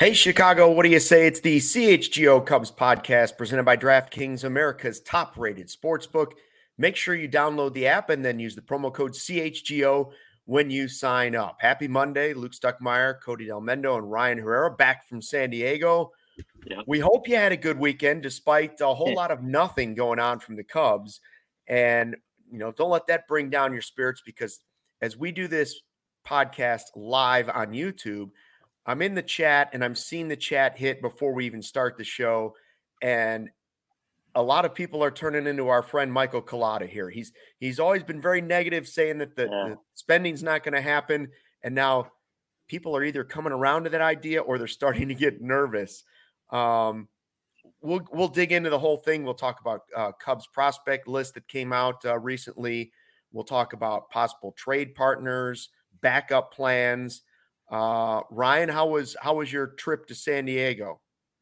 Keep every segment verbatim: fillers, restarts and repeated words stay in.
Hey, Chicago, what do you say? It's the C H G O Cubs podcast presented by DraftKings, America's top-rated sportsbook. Make sure you download the app and then use the promo code C H G O when you sign up. Happy Monday. Luke Stuckmeyer, Cody Delmendo, and Ryan Herrera back from San Diego. Yep. We hope you had a good weekend despite a whole lot of nothing going on from the Cubs. And, you know, don't let that bring down your spirits, because as we do this podcast live on YouTube, I'm in the chat and I'm seeing the chat hit before we even start the show. And a lot of people are turning into our friend Michael Collada here. He's he's always been very negative, saying that the, yeah. the spending's not going to happen. And now people are either coming around to that idea or they're starting to get nervous. Um, we'll we'll dig into the whole thing. We'll talk about uh, Cubs prospect list that came out uh, recently. We'll talk about possible trade partners, backup plans. Uh, Ryan, how was how was your trip to San Diego?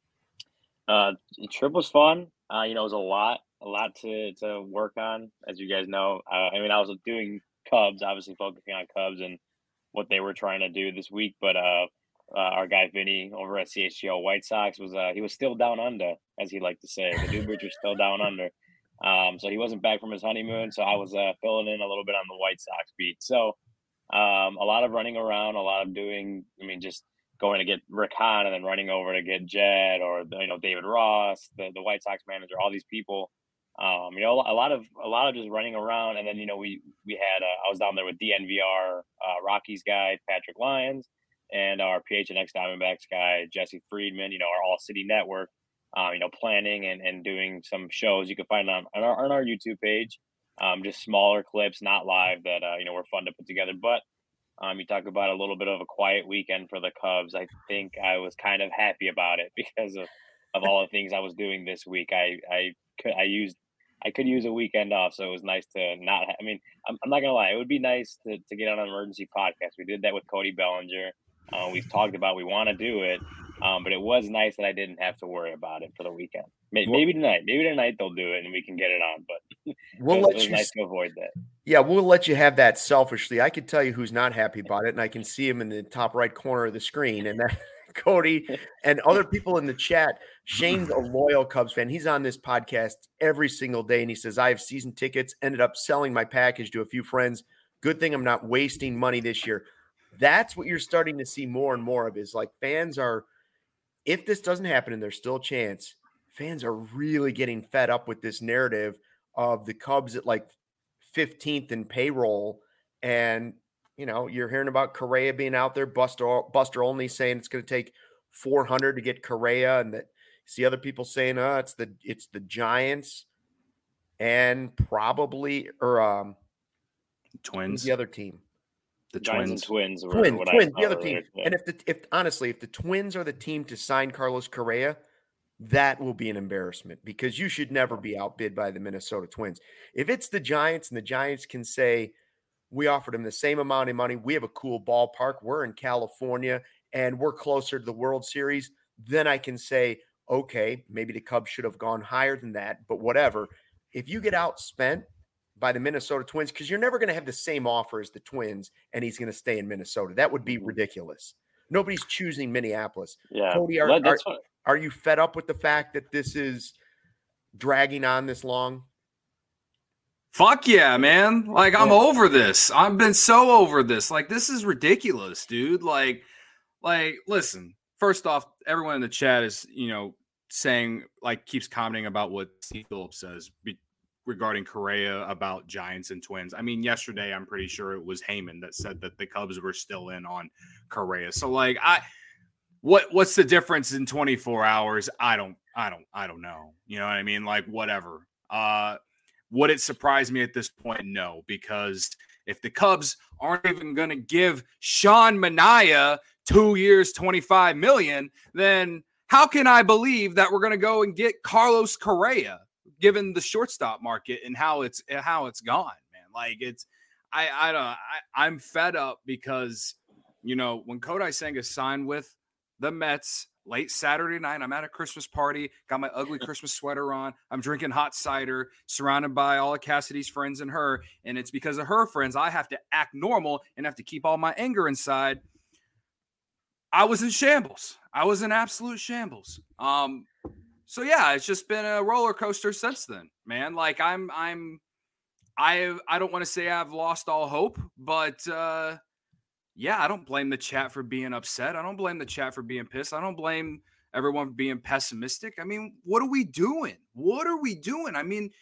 Uh, the trip was fun. Uh, you know, it was a lot, a lot to to work on, as you guys know. Uh, I mean, I was doing Cubs, obviously focusing on Cubs and what they were trying to do this week. But uh, uh, our guy Vinny over at C H G O White Sox was uh, he was still down under, as he liked to say. The Newbridge was still down under, um, so he wasn't back from his honeymoon. So I was uh, filling in a little bit on the White Sox beat. So. Um, a lot of running around, a lot of doing, I mean, just going to get Rick Hahn and then running over to get Jed or, you know, David Ross, the, the White Sox manager, all these people, um, you know, a lot of, a lot of just running around. And then, you know, we, we had, uh, I was down there with D N V R, uh, Rockies guy, Patrick Lyons, and our P H N X Diamondbacks guy, Jesse Friedman, you know, our All City Network, uh, you know, planning and, and doing some shows you can find on, on our, on our YouTube page. Um, just smaller clips, not live, that, uh, you know, were fun to put together. But um, you talk about a little bit of a quiet weekend for the Cubs. I think I was kind of happy about it because of, of all the things I was doing this week. I, I could, I used, I could use a weekend off. So it was nice to not, ha- I mean, I'm, I'm not going to lie. It would be nice to, to get on an emergency podcast. We did that with Cody Bellinger. Uh, we've talked about, we want to do it. Um, but it was nice that I didn't have to worry about it for the weekend. Maybe, well, maybe tonight, maybe tonight they'll do it and we can get it on. But we'll it was, let it was you nice to avoid that. Yeah, we'll let you have that selfishly. I can tell you who's not happy about it, and I can see him in the top right corner of the screen. And that Cody and other people in the chat. Shane's a loyal Cubs fan. He's on this podcast every single day, and he says, I have season tickets, ended up selling my package to a few friends. Good thing I'm not wasting money this year. That's what you're starting to see more and more of, is like fans are, if this doesn't happen and there's still a chance, fans are really getting fed up with this narrative of the Cubs at like fifteenth in payroll. And, you know, you're hearing about Correa being out there, Buster, Buster Olney saying it's going to take four hundred to get Correa. And that see other people saying, oh, it's the, it's the Giants and probably, or um, Twins, the other team. The Giants Twins, and Twins, were Twins, what Twins, I the other earlier. team. Yeah. And if the, if honestly, if the Twins are the team to sign Carlos Correa, that will be an embarrassment, because you should never be outbid by the Minnesota Twins. If it's the Giants and the Giants can say, we offered him the same amount of money, we have a cool ballpark, we're in California, and we're closer to the World Series, then I can say, okay, maybe the Cubs should have gone higher than that, but whatever. If you get outspent by the Minnesota Twins, because you're never going to have the same offer as the Twins, and he's going to stay in Minnesota, that would be mm-hmm. ridiculous. Nobody's choosing Minneapolis. Yeah, Cody, are, well, that's are, what... are you fed up with the fact that this is dragging on this long? Fuck yeah, man. Like, I'm over this. I've been so over this. Like, this is ridiculous, dude. Like, like, listen, first off, everyone in the chat is, you know, saying, like, keeps commenting about what Steve Phillips says be- regarding Correa about Giants and Twins. I mean, yesterday, I'm pretty sure it was Heyman that said that the Cubs were still in on Correa. So, like, I, what, what's the difference in twenty-four hours? I don't, I don't, I don't know. You know what I mean? Like, whatever. Uh, Would it surprise me at this point? No, because if the Cubs aren't even going to give Sean Manaea two years, twenty-five million dollars, then how can I believe that we're going to go and get Carlos Correa, given the shortstop market and how it's how it's gone, man? Like, it's I I don't I, I'm fed up because, you know, when Kodai Senga signed with the Mets late Saturday night, I'm at a Christmas party, got my ugly Christmas sweater on. I'm drinking hot cider, surrounded by all of Cassidy's friends and her. And it's because of her friends, I have to act normal and have to keep all my anger inside. I was in shambles. I was in absolute shambles. Um, so yeah, it's just been a roller coaster since then, man. Like I'm, I'm, I, I don't want to say I've lost all hope, but uh, yeah, I don't blame the chat for being upset. I don't blame the chat for being pissed. I don't blame everyone for being pessimistic. I mean, what are we doing? What are we doing? I mean,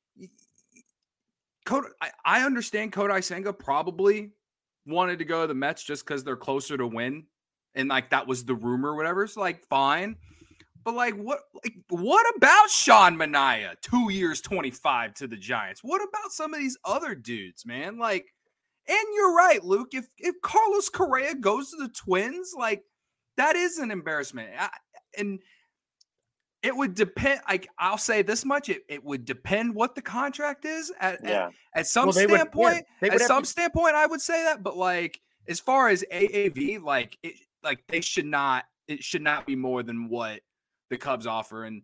Kodai, I, I understand Kodai Senga probably wanted to go to the Mets just because they're closer to win. And like that was the rumor or whatever. It's like fine. But like what like what about Sean Manaea? Two years, twenty-five to the Giants. What about some of these other dudes, man? Like, and you're right, Luke. If if Carlos Correa goes to the Twins, like that is an embarrassment. I, and it would depend. Like I'll say this much: it, it would depend what the contract is. At yeah. at, at some well, standpoint, would, yeah, at some to... standpoint, I would say that. But like as far as A A V, like it, like they should not. It should not be more than what the Cubs offer, and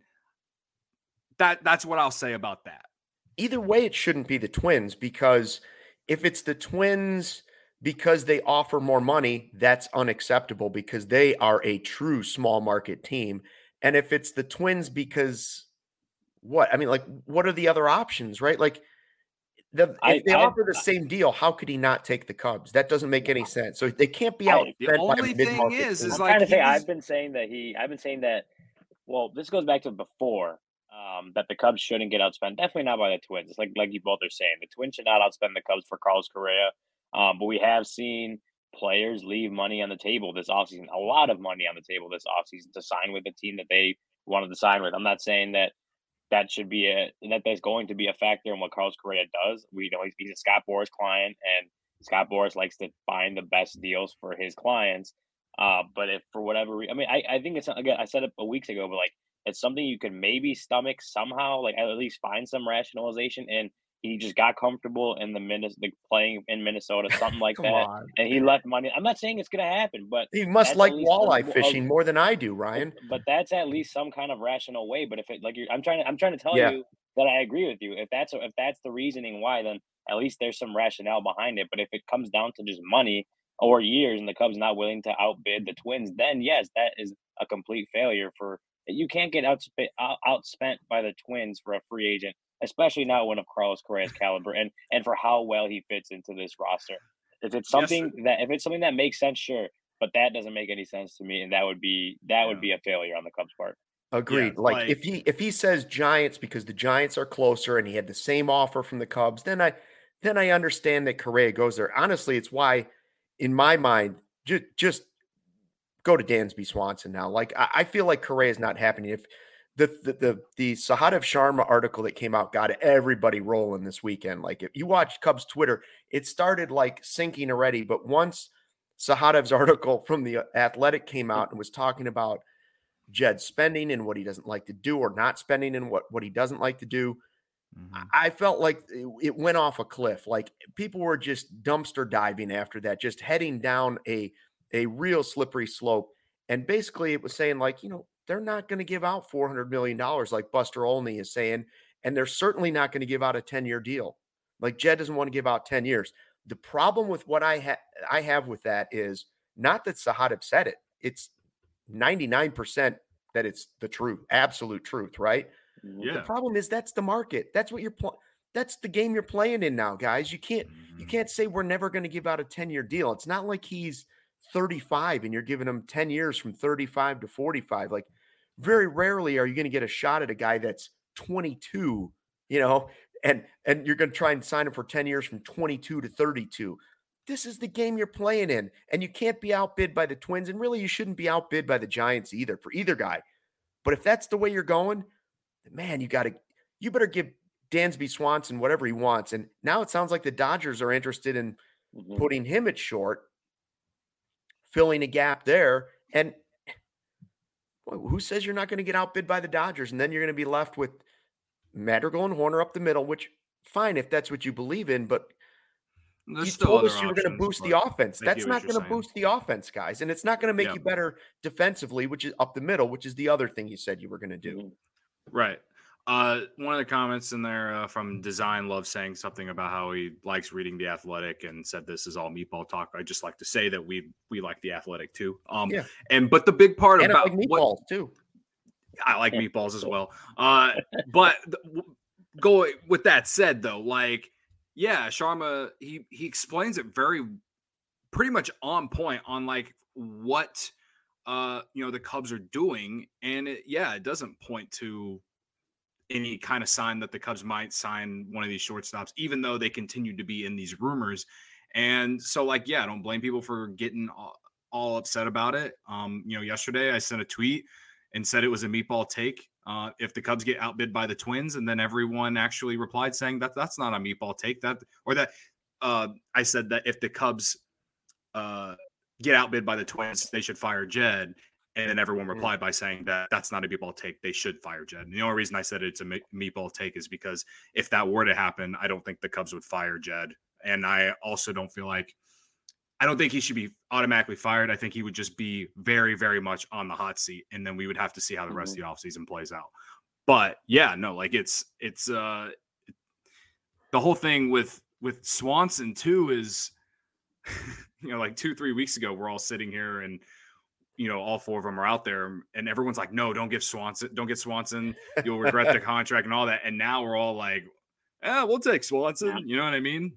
that that's what I'll say about that. Either way, it shouldn't be the Twins, because if it's the Twins because they offer more money, that's unacceptable because they are a true small market team. And if it's the Twins because what? I mean, like, what are the other options, right? Like, the, if I, they I, offer the I, same deal, how could he not take the Cubs? That doesn't make any sense. So they can't be out. The only thing is, is I'm like, trying to say, was... I've been saying that he, I've been saying that, well, this goes back to before, um, that the Cubs shouldn't get outspent. Definitely not by the Twins. It's like, like you both are saying, the Twins should not outspend the Cubs for Carlos Correa. Um, but we have seen players leave money on the table this offseason, a lot of money on the table this offseason to sign with the team that they wanted to sign with. I'm not saying that that should be a that there's going to be a factor in what Carlos Correa does. We know he's, he's a Scott Boras client, and Scott Boras likes to find the best deals for his clients. Uh, but if for whatever reason, I mean, I, I think it's again, I said it a weeks ago, but like it's something you could maybe stomach somehow, like at least find some rationalization. And he just got comfortable in the Minnesota, like playing in Minnesota, something like that, on. And he left money. I'm not saying it's going to happen, but he must like walleye some, fishing uh, more than I do, Ryan. But, but that's at least some kind of rational way. But if it like you're, I'm trying to, I'm trying to tell yeah. you that I agree with you. If that's if that's the reasoning why, then at least there's some rationale behind it. But if it comes down to just money or years, and the Cubs not willing to outbid the Twins, then yes, that is a complete failure. For you can't get outspent out, outspent by the Twins for a free agent, especially not one of Carlos Correa's caliber, and and for how well he fits into this roster. If it's something yes, that if it's something that makes sense, sure, but that doesn't make any sense to me, and that would be that yeah. would be a failure on the Cubs' part. Agreed. Yeah, like, like if he if he says Giants because the Giants are closer and he had the same offer from the Cubs, then I then I understand that Correa goes there. Honestly, it's why, in my mind, just just go to Dansby Swanson now. Like I, I feel like Correa is not happening. If The the the, the Sahadev Sharma article that came out got everybody rolling this weekend. Like if you watch Cubs Twitter, it started like sinking already. But once Sahadev's article from the Athletic came out and was talking about Jed spending and what he doesn't like to do, or not spending and what, what he doesn't like to do, mm-hmm. I felt like it, it went off a cliff. Like people were just dumpster diving after that, just heading down a a real slippery slope. And basically it was saying like, you know, they're not going to give out four hundred million dollars like Buster Olney is saying, and they're certainly not going to give out a ten-year deal. Like Jed doesn't want to give out ten years. The problem with what I, ha- I have with that is not that Sahadev said it. It's ninety-nine percent that it's the truth, absolute truth, right? Yeah. The problem is that's the market. That's what you're pl- That's the game you're playing in now, guys. You can't mm-hmm. you can't say we're never going to give out a ten-year deal. It's not like he's thirty-five and you're giving him ten years from thirty-five to forty-five. Like very rarely are you going to get a shot at a guy that's twenty-two, you know, and, and you're going to try and sign him for ten years from twenty-two to thirty-two. This is the game you're playing in, and you can't be outbid by the Twins. And really you shouldn't be outbid by the Giants either for either guy. But if that's the way you're going, man, you got to, you better give Dansby Swanson whatever he wants. And now it sounds like the Dodgers are interested in mm-hmm. putting him at short, filling a gap there. And boy, who says you're not going to get outbid by the Dodgers? And then you're going to be left with Madrigal and Horner up the middle, which fine, if that's what you believe in, but There's you still told other us you were options, going to boost the offense. That's not going to saying. boost the offense, guys. And it's not going to make Yep. you better defensively, which is up the middle, which is the other thing you said you were going to do. Right. Uh, one of the comments in there uh, from Design Love saying something about how he likes reading The Athletic and said this is all meatball talk. I just like to say that we we like The Athletic too. Um, Yeah. and but the big part And I about like meatballs what too. I like meatballs as well. Uh, but th- go with that said though, like yeah, Sharma he he explains it very pretty much on point on like what uh you know the Cubs are doing, and it, yeah, it doesn't point to any kind of sign that the Cubs might sign one of these shortstops, even though they continue to be in these rumors. And so, like, yeah, I don't blame people for getting all, all upset about it. Um, you know, yesterday I sent a tweet and said it was a meatball take. Uh, if the Cubs get outbid by the Twins, and then everyone actually replied saying that that's not a meatball take. That or that uh, I said that if the Cubs uh, get outbid by the Twins, they should fire Jed. And then everyone replied by saying that that's not a meatball take. They should fire Jed. And the only reason I said it's a meatball take is because if that were to happen, I don't think the Cubs would fire Jed. And I also don't feel like I don't think he should be automatically fired. I think he would just be very, very much on the hot seat. And then we would have to see how the rest mm-hmm. of the offseason plays out. But yeah, no, like it's it's uh the whole thing with with Swanson too is you know, like two, three weeks ago, we're all sitting here and you know, all four of them are out there and everyone's like, no, don't give Swanson, don't get Swanson. You'll regret the contract and all that. And now we're all like, yeah, we'll take Swanson. Yeah. You know what I mean?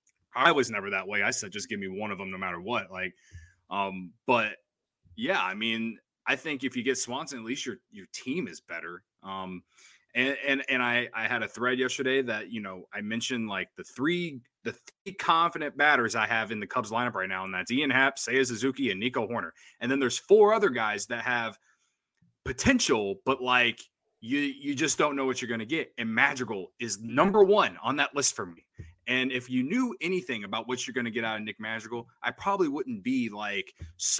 I was never that way. I said, just give me one of them no matter what. Like, um, but yeah, I mean, I think if you get Swanson, at least your, your team is better. Um, and, and, and I, I had a thread yesterday that, you know, I mentioned like the three, the three confident batters I have in the Cubs lineup right now. And that's Ian Happ, Seiya Suzuki, and Nico Horner. And then there's four other guys that have potential, but like you, you just don't know what you're going to get. And Madrigal is number one on that list for me. And if you knew anything about what you're going to get out of Nick Madrigal, I probably wouldn't be like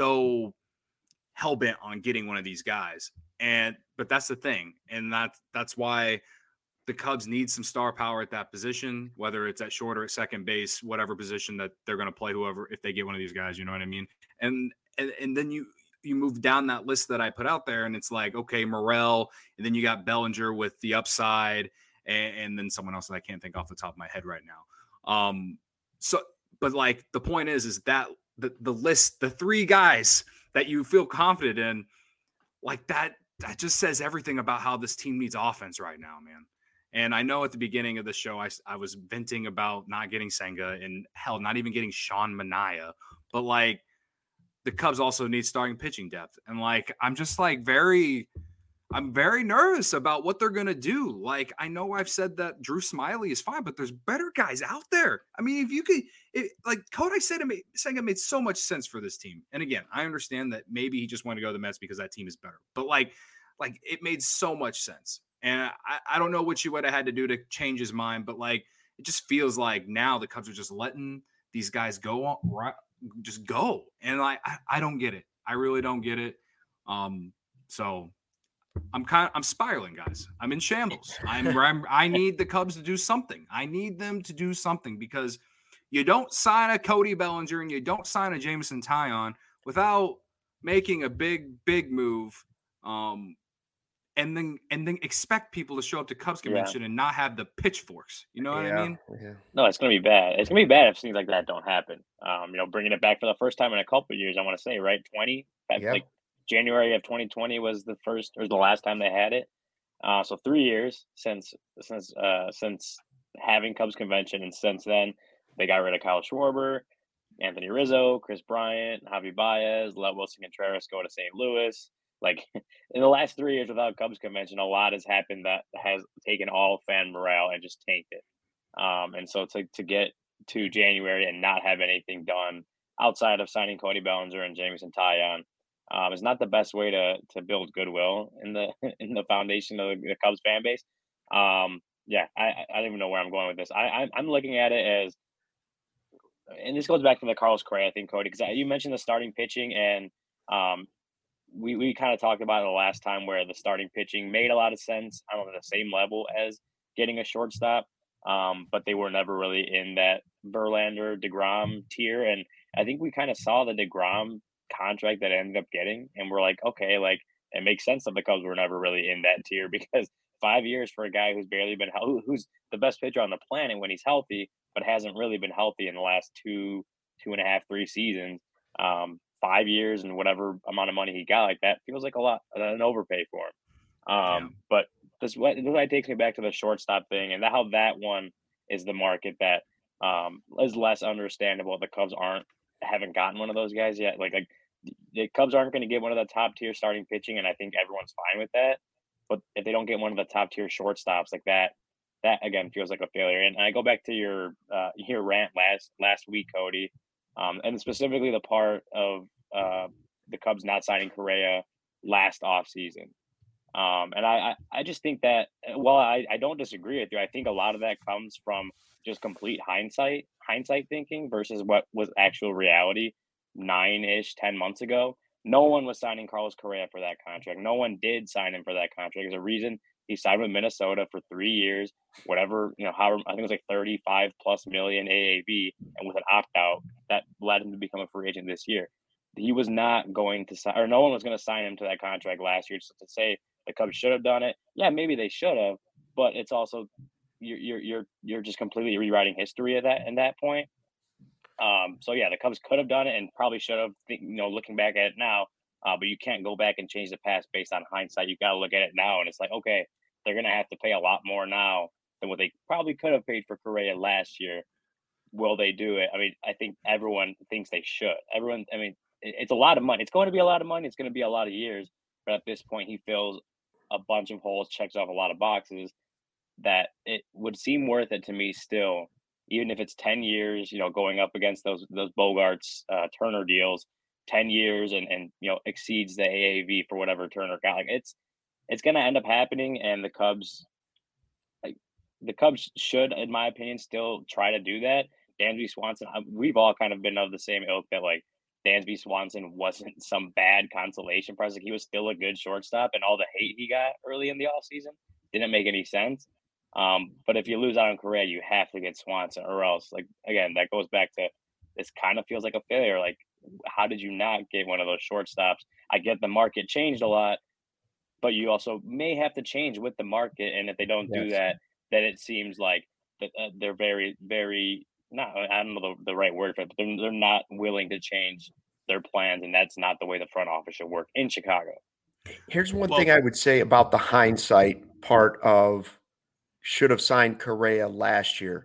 so hell-bent on getting one of these guys. And but that's the thing. And that that's why the Cubs need some star power at that position, whether it's at short or at second base, whatever position that they're going to play, whoever, if they get one of these guys, you know what I mean? And and, and then you you move down that list that I put out there, and it's like, okay, Morel, and then you got Bellinger with the upside, and, and then someone else that I can't think off the top of my head right now. Um, so, but like the point is, is that the the list, the three guys that you feel confident in, like that, that just says everything about how this team needs offense right now, man. And I know at the beginning of the show, I, I was venting about not getting Senga and hell, not even getting Sean Manaea, but like the Cubs also need starting pitching depth. And like, I'm just like very, I'm very nervous about what they're going to do. Like, I know I've said that Drew Smiley is fine, but there's better guys out there. I mean, if you could, it, like Kodai said, it made, Senga made so much sense for this team. And again, I understand that maybe he just wanted to go to the Mets because that team is better, but like, like it made so much sense. And I, I don't know what you would have had to do to change his mind, but like, it just feels like now the Cubs are just letting these guys go on, right, just go. And like, I, I don't get it. I really don't get it. Um, so I'm kind of, I'm spiraling, guys. I'm in shambles. I'm, I'm, I need the Cubs to do something. I need them to do something because you don't sign a Cody Bellinger and you don't sign a Jameson Taillon without making a big, big move. Um, And then and then expect people to show up to Cubs convention yeah. and not have the pitchforks. You know what yeah. I mean? Yeah. No, it's going to be bad. It's going to be bad if things like that don't happen. Um, you know, bringing it back for the first time in a couple of years, I want to say, right? twenty Yeah. Like January of twenty twenty was the first or the last time they had it. Uh, so three years since since uh, since having Cubs convention, and since then they got rid of Kyle Schwarber, Anthony Rizzo, Chris Bryant, Javi Baez, let Wilson Contreras go to Saint Louis. Like in the last three years without Cubs convention, a lot has happened that has taken all fan morale and just tanked it. Um, and so to to get to January and not have anything done outside of signing Cody Bellinger and Jameson Taillon um, is not the best way to to build goodwill in the in the foundation of the, the Cubs fan base. Um, yeah, I, I don't even know where I'm going with this. I, I I'm looking at it as, and this goes back to the Carlos Correa thing, Cody, because you mentioned the starting pitching and. Um, We we kind of talked about it the last time where the starting pitching made a lot of sense. I don't know, the same level as getting a shortstop, um, but they were never really in that Verlander, DeGrom tier. And I think we kind of saw the DeGrom contract that I ended up getting, and we're like, okay, like it makes sense that the Cubs were never really in that tier because five years for a guy who's barely been who, who's the best pitcher on the planet when he's healthy, but hasn't really been healthy in the last two, two and a half, three seasons. Um, five years and whatever amount of money he got, like that feels like a lot, an overpay for him. Um, yeah. But this what this what takes me back to the shortstop thing, and how that one is the market that um, is less understandable. The Cubs aren't haven't gotten one of those guys yet. Like like the Cubs aren't going to get one of the top tier starting pitching, and I think everyone's fine with that. But if they don't get one of the top tier shortstops like that, that again feels like a failure. And I go back to your uh, your rant last last week, Cody, um, and specifically the part of uh, the Cubs not signing Correa last offseason. Um, and I, I, I just think that while I, I don't disagree with you, I think a lot of that comes from just complete hindsight, hindsight thinking versus what was actual reality nine-ish, ten months ago. No one was signing Carlos Correa for that contract. No one did sign him for that contract. There's a reason he signed with Minnesota for three years, whatever, you know, however, I think it was like thirty-five plus million A A V, and with an opt-out, that led him to become a free agent this year. He was not going to sign, or no one was going to sign him to that contract last year. So to say the Cubs should have done it, yeah, maybe they should have, but it's also you're you're you're you're just completely rewriting history at that at that point. Um, so yeah, the Cubs could have done it and probably should have. You know, looking back at it now, uh, but you can't go back and change the past based on hindsight. You got to look at it now, and it's like, okay, they're gonna have to pay a lot more now than what they probably could have paid for Correa last year. Will they do it? I mean, I think everyone thinks they should. Everyone, I mean, it, it's a lot of money. It's going to be a lot of money. It's going to be a lot of years. But at this point, he fills a bunch of holes, checks off a lot of boxes that it would seem worth it to me still, even if it's ten years, you know, going up against those those Bogarts, uh, Turner deals, ten years and, and, you know, exceeds the A A V for whatever Turner got. Like it's, it's going to end up happening. And the Cubs, like the Cubs should, in my opinion, still try to do that. Dansby Swanson, we've all kind of been of the same ilk that like Dansby Swanson wasn't some bad consolation prize. Like he was still a good shortstop, and all the hate he got early in the offseason didn't make any sense. Um, but if you lose out on Correa, you have to get Swanson, or else, like, again, that goes back to this kind of feels like a failure. Like, how did you not get one of those shortstops? I get the market changed a lot, but you also may have to change with the market. And if they don't yes. do that, then it seems like that uh, they're very, very not, I don't know the, the right word for it, but they're, they're not willing to change their plans. And that's not the way the front office should work in Chicago. Here's one well, thing I would say about the hindsight part of should have signed Correa last year.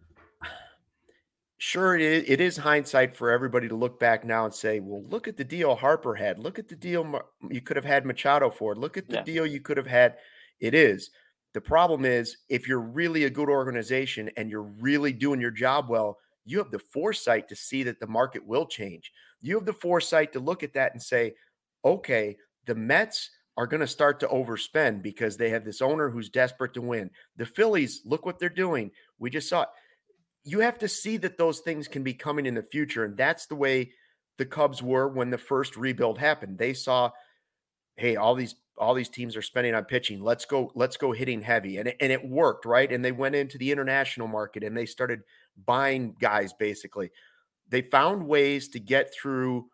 Sure, it is, it is hindsight for everybody to look back now and say, well, look at the deal Harper had. Look at the deal you could have had Machado for. Look at the yeah. deal you could have had. It is. The problem is, if you're really a good organization and you're really doing your job well, you have the foresight to see that the market will change. You have the foresight to look at that and say, okay, the Mets are going to start to overspend because they have this owner who's desperate to win. The Phillies, look what they're doing. We just saw it. You have to see that those things can be coming in the future. And that's the way the Cubs were when the first rebuild happened. They saw, hey, all these all these teams are spending on pitching. Let's go, let's go hitting heavy. And it, and it worked, right? And they went into the international market and they started buying guys, basically. They found ways to get through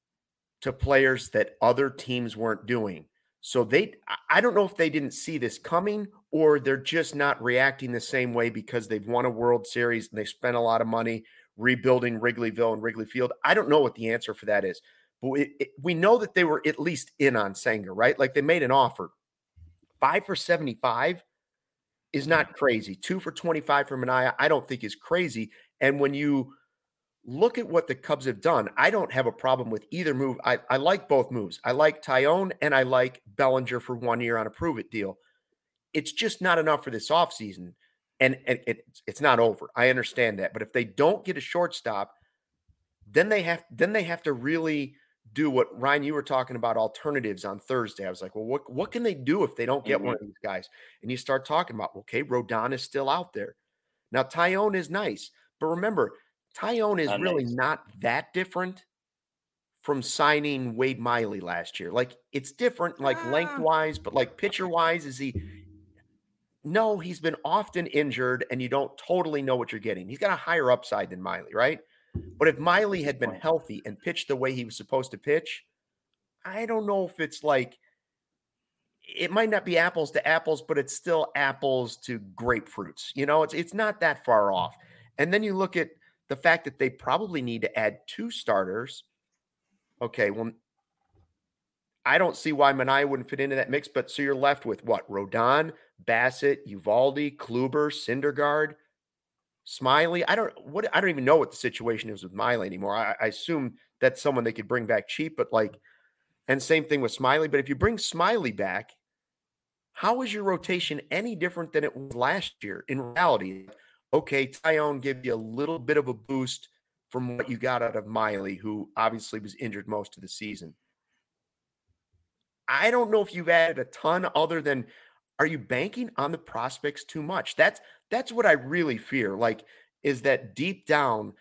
to players that other teams weren't doing. So they, I don't know if they didn't see this coming or they're just not reacting the same way because they've won a World Series and they spent a lot of money rebuilding Wrigleyville and Wrigley Field. I don't know what the answer for that is, but it, it, we know that they were at least in on Senga, right? Like they made an offer. Five for seventy-five is not crazy. Two for twenty-five for Manaea, I don't think is crazy. And when you look at what the Cubs have done, I don't have a problem with either move. I, I like both moves. I like Taillon and I like Bellinger for one year on a prove-it deal. It's just not enough for this offseason. And, and it, it's not over. I understand that. But if they don't get a shortstop, then they have then they have to really do what, Ryan, you were talking about alternatives on Thursday. I was like, well, what, what can they do if they don't get mm-hmm. one of these guys? And you start talking about, okay, Rodon is still out there. Now, Taillon is nice. But remember, Taillon is really nice. Not that different from signing Wade Miley last year. Like, it's different, like ah. lengthwise, but like pitcher-wise, is he – no, he's been often injured, and you don't totally know what you're getting. He's got a higher upside than Miley, right? But if Miley had been healthy and pitched the way he was supposed to pitch, I don't know if it's like it might not be apples to apples, but it's still apples to grapefruits. You know, it's it's not that far off. And then you look at the fact that they probably need to add two starters. Okay, well, I don't see why Minaya wouldn't fit into that mix, but so you're left with what? Rodon, Bassett, Uvalde, Kluber, Syndergaard, Smiley. I don't what I don't even know what the situation is with Miley anymore. I, I assume that's someone they could bring back cheap, but like, and same thing with Smiley. But if you bring Smiley back, how is your rotation any different than it was last year? In reality, okay, Tyone give you a little bit of a boost from what you got out of Miley, who obviously was injured most of the season. I don't know if you've added a ton other than, are you banking on the prospects too much? That's that's what I really fear. Like, is that deep down,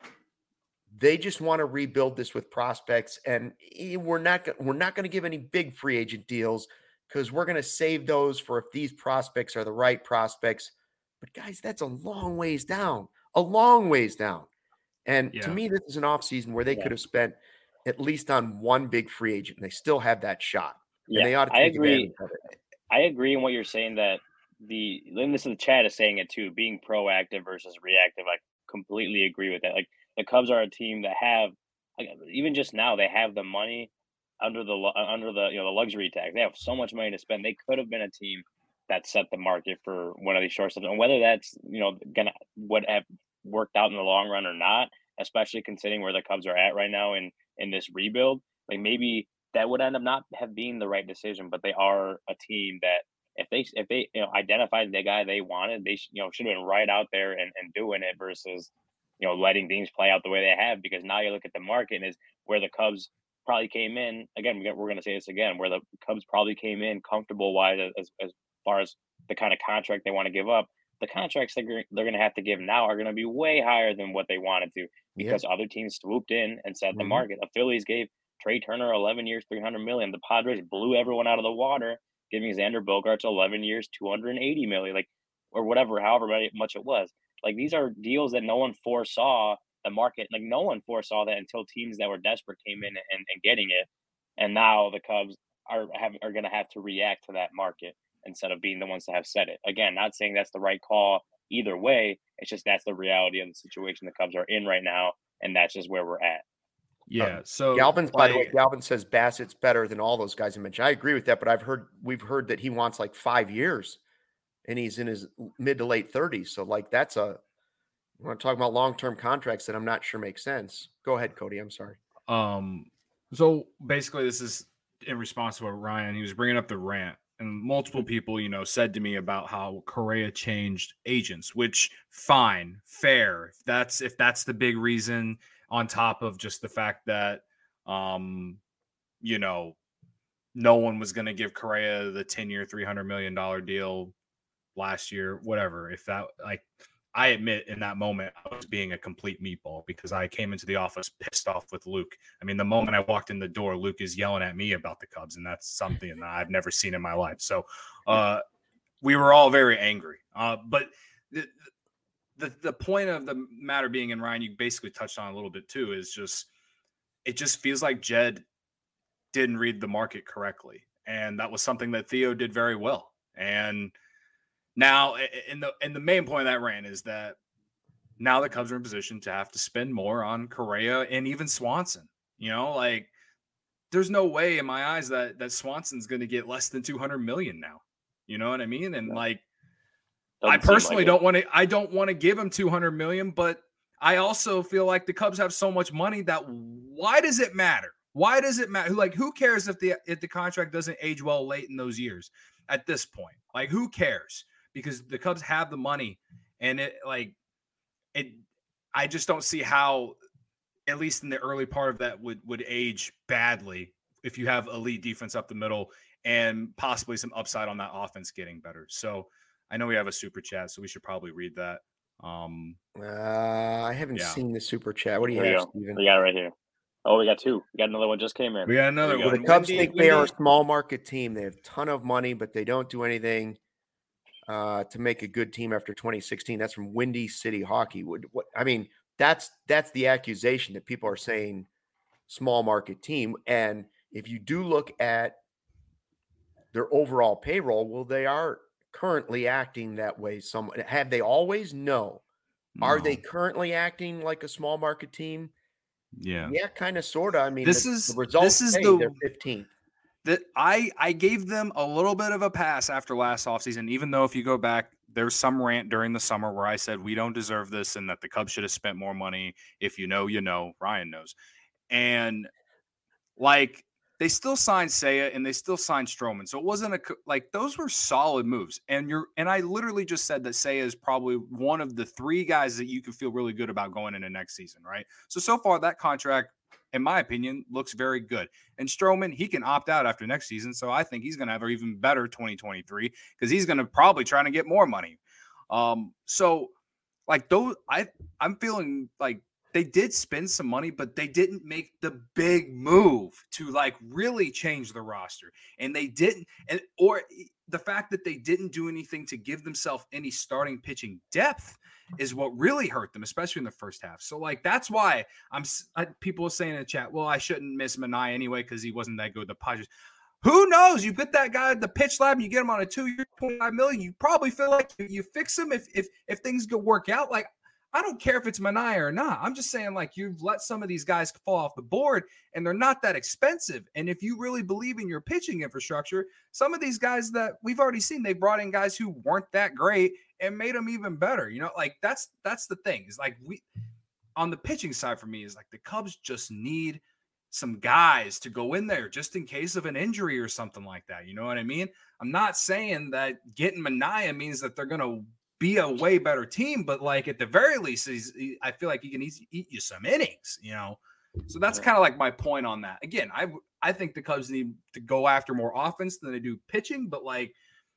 they just want to rebuild this with prospects, and we're not we're not going to give any big free agent deals because we're going to save those for if these prospects are the right prospects. But guys, that's a long ways down, a long ways down. And yeah. to me, this is an offseason where they yeah. could have spent at least on one big free agent, and they still have that shot. Yeah, and they ought to take I agree. advantage of it. I agree in what you're saying that the, and this is the chat is saying it too, being proactive versus reactive. I completely agree with that. Like, the Cubs are a team that have, like, even just now, they have the money under the under the you know the luxury tax. They have so much money to spend. They could have been a team that set the market for one of these shortstops, and whether that's you know gonna would have worked out in the long run or not, especially considering where the Cubs are at right now in in this rebuild, like maybe that would end up not have been the right decision. But they are a team that if they if they you know identified the guy they wanted, they you know should have been right out there and, and doing it versus you know letting things play out the way they have. Because now you look at the market and is where the Cubs probably came in again. We're going to say this again, where the Cubs probably came in comfortable wise as as far as the kind of contract they want to give up. The contracts they're, they're going to have to give now are going to be way higher than what they wanted to because yeah. other teams swooped in and set mm-hmm. the market. The Phillies gave Trey Turner eleven years, three hundred million. The Padres blew everyone out of the water, giving Xander Bogaerts eleven years, two hundred eighty million, like, or whatever, however much it was. Like, these are deals that no one foresaw the market. Like, no one foresaw that until teams that were desperate came in and, and getting it. And now the Cubs are have, are going to have to react to that market instead of being the ones that have set it. Again, not saying that's the right call either way. It's just that's the reality of the situation the Cubs are in right now, and that's just where we're at. Yeah. So Galvin's, by the way, Galvin says Bassett's better than all those guys I mentioned. I agree with that, but I've heard we've heard that he wants like five years, and he's in his mid to late thirties. So like that's a we're talking about long term contracts that I'm not sure make sense. Go ahead, Cody. I'm sorry. Um. So basically, this is in response to what Ryan he was bringing up the rant. And multiple people, you know, said to me about how Correa changed agents, which fine, fair. If that's if that's the big reason, on top of just the fact that, um, you know, no one was going to give Correa the ten-year, three hundred million dollars deal last year, whatever. If that, like, I admit in that moment I was being a complete meatball because I came into the office pissed off with Luke. I mean, the moment I walked in the door, Luke is yelling at me about the Cubs, and that's something that I've never seen in my life. So uh, we were all very angry. Uh, but the, the the point of the matter being, and Ryan, you basically touched on a little bit too, is just it just feels like Jed didn't read the market correctly, and that was something that Theo did very well. And now, in the and the main point of that rant is that now the Cubs are in position to have to spend more on Correa and even Swanson. You know, like there's no way in my eyes that that Swanson's going to get less than two hundred million now. You know what I mean? And like, Doesn't I personally like don't want to. I don't want to give him two hundred million, but I also feel like the Cubs have so much money that why does it matter? Why does it matter? Like, who cares if the if the contract doesn't age well late in those years? At this point, like, who cares? Because the Cubs have the money, and it like it. I just don't see how, at least in the early part of that, would would age badly if you have elite defense up the middle and possibly some upside on that offense getting better. So I know we have a super chat, so we should probably read that. Um, uh, I haven't yeah. seen the super chat. What do you there have, you Steven? We got it right here. Oh, we got two. We got another one just came in. We got another one. The Cubs Wendy, think they Wendy. are a small market team. They have a ton of money, but they don't do anything uh, to make a good team after twenty sixteen. That's from Windy City Hockey. What, what I mean, that's that's the accusation that people are saying small market team. And if you do look at their overall payroll. Well, they are currently acting that way. Some have they always? No. No. Are they currently acting like a small market team? Yeah. Yeah, kind of, sort of. I mean, This the, is the results this is say the they're fifteenth. that I I gave them a little bit of a pass after last offseason, even though if you go back, there's some rant during the summer where I said we don't deserve this and that the Cubs should have spent more money. If you know, you know. Ryan knows. And like they still signed Seiya and they still signed Stroman. So it wasn't a like those were solid moves. And you're and I literally just said that Seiya is probably one of the three guys that you can feel really good about going into next season, right? So so far that contract, in my opinion, looks very good. And Stroman, he can opt out after next season. So I think he's going to have an even better twenty twenty-three because he's going to probably try to get more money. Um, so like those, I, I'm feeling like they did spend some money, but they didn't make the big move to like really change the roster. And they didn't, and or the fact that they didn't do anything to give themselves any starting pitching depth is what really hurt them, especially in the first half. So like, that's why I'm I, people are saying in the chat, well, I shouldn't miss Manaea anyway, because he wasn't that good with the Padres. Who knows? You put that guy at the pitch lab and you get him on a two-year, twenty-five million dollars. You probably feel like you, you fix him if if if things go work out. Like, I don't care if it's Manaea or not. I'm just saying, like, you've let some of these guys fall off the board, and they're not that expensive. And if you really believe in your pitching infrastructure, some of these guys that we've already seen, they brought in guys who weren't that great and made them even better. You know, like that's that's the thing. Is like we on the pitching side for me is like the Cubs just need some guys to go in there just in case of an injury or something like that. You know what I mean? I'm not saying that getting Manaea means that they're going to be a way better team, but like at the very least, he's, he, I feel like he can eat, eat you some innings, you know? So that's kind of like my point on that. Again, I, I think the Cubs need to go after more offense than they do pitching, but like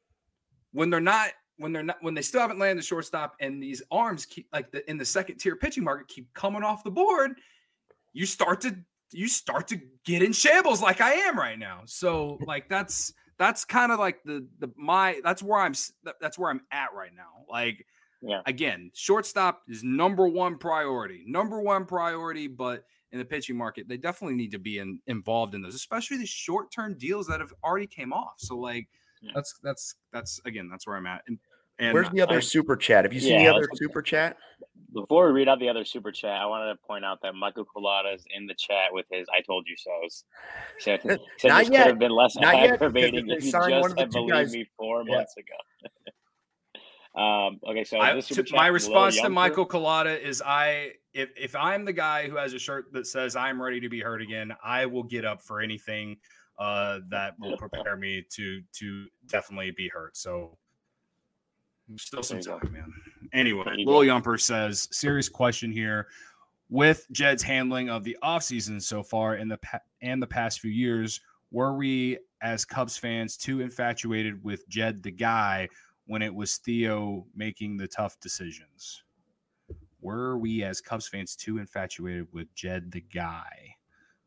when they're not, when they're not, when they still haven't landed the shortstop and these arms keep like the, in the second tier pitching market keep coming off the board, you start to, you start to get in shambles like I am right now. So like, that's, that's kind of like the, the, my, that's where I'm, that's where I'm at right now. Like, yeah, again, shortstop is number one priority, number one priority, but in the pitching market, they definitely need to be in, involved in those, especially the short-term deals that have already came off. So like, yeah. that's, that's, that's again, that's where I'm at. And, and where's the other I, super chat? Have you seen yeah, the other super chat? Before we read out the other super chat, I wanted to point out that Michael Colada is in the chat with his "I told you so"s. He said, he said Not this yet. could have been less Not aggravating yet, if you just had believed guys. me four yeah. months ago. um, okay, so I, this to, super chat, my response to Yumper, Michael Colada is, I if if I'm the guy who has a shirt that says I'm ready to be hurt again, I will get up for anything uh, that will prepare me to to definitely be hurt. So. Still some time, man. Anyway, Lil Yumper says, serious question here. With Jed's handling of the offseason so far in the pa- and the past few years, were we as Cubs fans too infatuated with Jed the guy when it was Theo making the tough decisions? Were we as Cubs fans too infatuated with Jed the guy?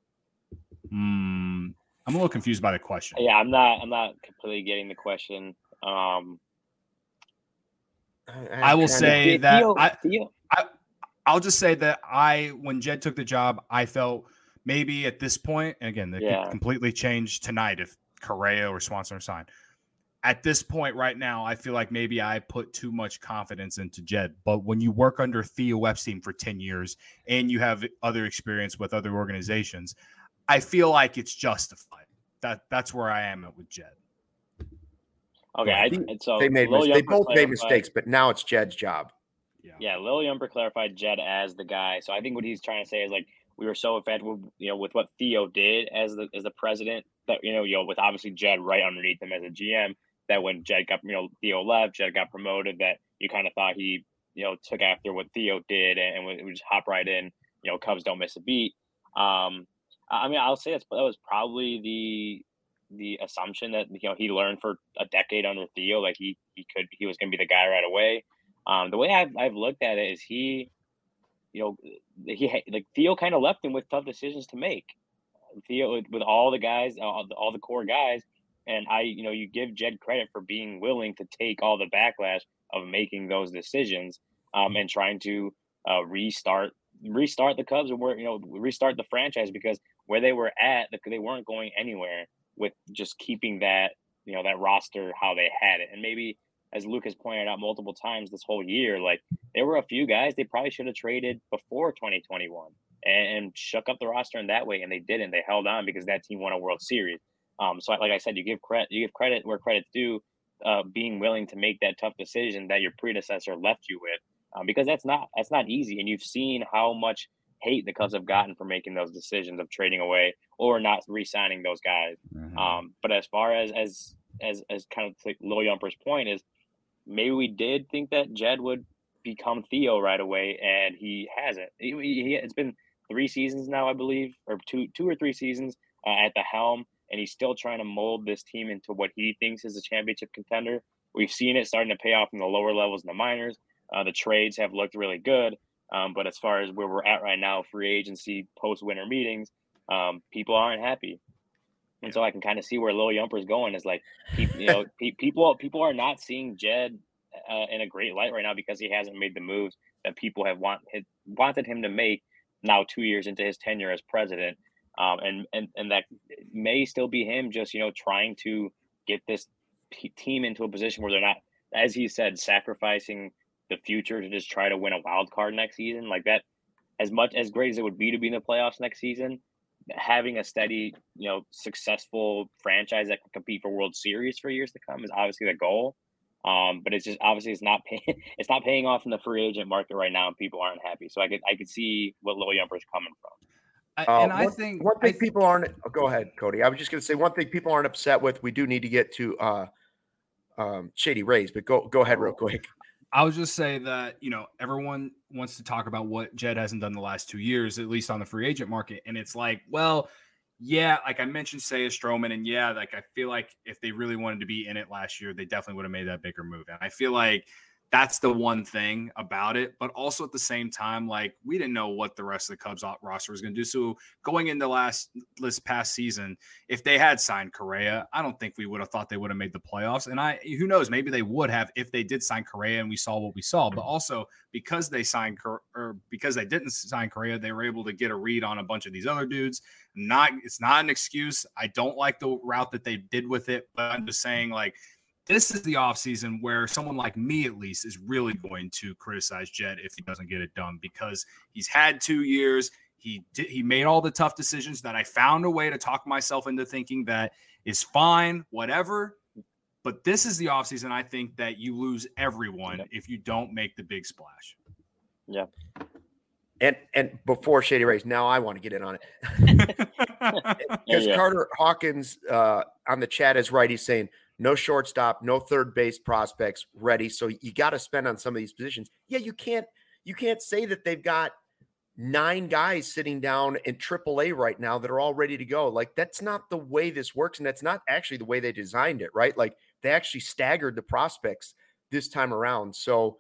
Hmm. I'm a little confused by the question. Yeah, I'm not. I'm not completely getting the question. Um, I will say Theo, that Theo, I, Theo. I, I'll just say that I, when Jed took the job, I felt maybe at this point, and again, that yeah. could completely change tonight if Correa or Swanson are signed. At this point right now, I feel like maybe I put too much confidence into Jed. But when you work under Theo Epstein for ten years and you have other experience with other organizations, I feel like it's justified. That That's where I am at with Jed. Okay, I, and so they made mis- they both made mistakes, but now it's Jed's job. Yeah, yeah. Lil Yumper clarified Jed as the guy. So I think what he's trying to say is like we were so infatuated, with, you know, with what Theo did as the as the president that you know, you know, with obviously Jed right underneath him as a G M. That when Jed got, you know, Theo left, Jed got promoted. That you kind of thought he, you know, took after what Theo did and, and would, would just hop right in. You know, Cubs don't miss a beat. Um, I mean, I'll say that's that was probably the. the assumption that, you know, he learned for a decade under Theo, like he, he could, he was going to be the guy right away. Um, the way I've, I've looked at it is he, you know, he, like Theo kind of left him with tough decisions to make. Theo with all the guys, all the, all the core guys. And I, you know, you give Jed credit for being willing to take all the backlash of making those decisions um, and trying to uh, restart, restart the Cubs or, you know, restart the franchise because where they were at, they weren't going anywhere. With just keeping that you know, that roster how they had it. And maybe, as Luke has pointed out multiple times this whole year, like there were a few guys they probably should have traded before twenty twenty-one and, and shook up the roster in that way, and they didn't. They held on because that team won a World Series. Um, so, like I said, you give credit, you give credit where credit's due, uh, being willing to make that tough decision that your predecessor left you with, um, because that's not that's not easy. And you've seen how much hate the Cubs have gotten for making those decisions of trading away or not re-signing those guys. Mm-hmm. Um, but as far as as as as kind of like Lil Yumper's point is, maybe we did think that Jed would become Theo right away, and he hasn't. He, he, it's been three seasons now, I believe, or two two or three seasons uh, at the helm, and he's still trying to mold this team into what he thinks is a championship contender. We've seen it starting to pay off in the lower levels in the minors. Uh, the trades have looked really good. Um, but as far as where we're at right now, free agency, post-winter meetings, um, people aren't happy. And so I can kind of see where Lil Yumper's going is like, you know, pe- people people are not seeing Jed uh, in a great light right now because he hasn't made the moves that people have want, had wanted him to make now two years into his tenure as president. Um, and, and, and that may still be him just, you know, trying to get this p- team into a position where they're not, as he said, sacrificing the future to just try to win a wild card next season. Like that, as much as great as it would be to be in the playoffs next season, having a steady, you know, successful franchise that can compete for World Series for years to come is obviously the goal. Um, but it's just obviously it's not pay- it's not paying off in the free agent market right now, and people aren't happy. So I could I could see what Lil Yumper's coming from. I, and uh, I one, think one thing I th- people aren't. Oh, go ahead, Cody. I was just going to say one thing people aren't upset with. We do need to get to uh, um, Shady Rays, but go go ahead real quick. I would just say that, you know, everyone wants to talk about what Jed hasn't done the last two years, at least on the free agent market. And it's like, well, yeah, like I mentioned, Seiya Stroman. And yeah, like I feel like if they really wanted to be in it last year, they definitely would have made that bigger move. And I feel like that's the one thing about it. But also at the same time, like we didn't know what the rest of the Cubs roster was going to do. So going into last this past season, if they had signed Correa, I don't think we would have thought they would have made the playoffs. And I, who knows, maybe they would have if they did sign Correa and we saw what we saw. But also because they signed or because they didn't sign Correa, they were able to get a read on a bunch of these other dudes. Not, it's not an excuse. I don't like the route that they did with it, but I'm just saying like, this is the offseason where someone like me, at least, is really going to criticize Jed if he doesn't get it done because he's had two years. He did, he made all the tough decisions that I found a way to talk myself into thinking that is fine, whatever. But this is the offseason, I think, that you lose everyone if you don't make the big splash. Yeah. And and before Shady Rays, now I want to get in on it. Because yeah, yeah. Carter Hawkins uh, on the chat is right. He's saying, no shortstop, no third base prospects ready. So you got to spend on some of these positions. Yeah, you can't you can't say that they've got nine guys sitting down in triple A right now that are all ready to go. Like that's not the way this works, and that's not actually the way they designed it, right? Like they actually staggered the prospects this time around. So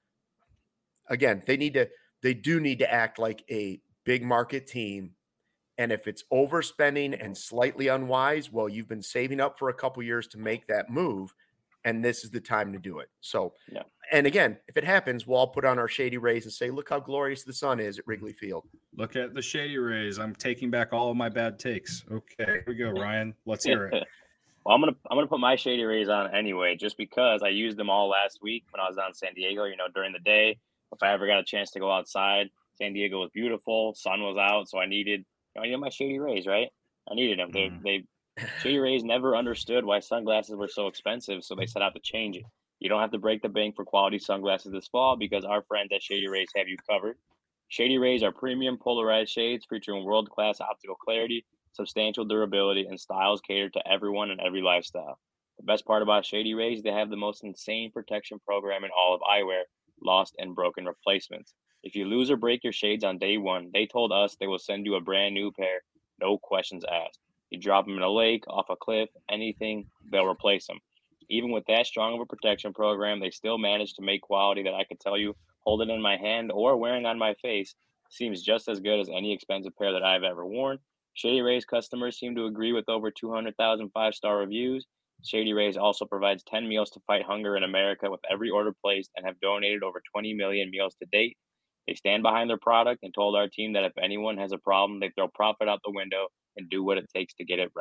again, they need to they do need to act like a big market team. And if it's overspending and slightly unwise, well, you've been saving up for a couple years to make that move, and this is the time to do it. So, yeah. And again, if it happens, we'll all put on our Shady Rays and say, look how glorious the sun is at Wrigley Field. Look at the Shady Rays. I'm taking back all of my bad takes. Okay, here we go, Ryan. Let's hear it. Well, I'm gonna I'm gonna put my Shady Rays on anyway, just because I used them all last week when I was down in San Diego. You know, during the day, if I ever got a chance to go outside, San Diego was beautiful, sun was out, so I needed. I needed my Shady Rays, right? I needed them. They, mm. they, Shady Rays never understood why sunglasses were so expensive, so they set out to change it. You don't have to break the bank for quality sunglasses this fall because our friends at Shady Rays have you covered. Shady Rays are premium polarized shades featuring world-class optical clarity, substantial durability, and styles catered to everyone and every lifestyle. The best part about Shady Rays, they have the most insane protection program in all of eyewear, lost and broken replacements. If you lose or break your shades on day one, they told us they will send you a brand new pair, no questions asked. You drop them in a lake, off a cliff, anything, they'll replace them. Even with that strong of a protection program, they still manage to make quality that I could tell you, holding in my hand or wearing on my face, seems just as good as any expensive pair that I've ever worn. Shady Rays customers seem to agree with over two hundred thousand five-star reviews. Shady Rays also provides ten meals to fight hunger in America with every order placed and have donated over twenty million meals to date. They stand behind their product and told our team that if anyone has a problem, they throw profit out the window and do what it takes to get it right.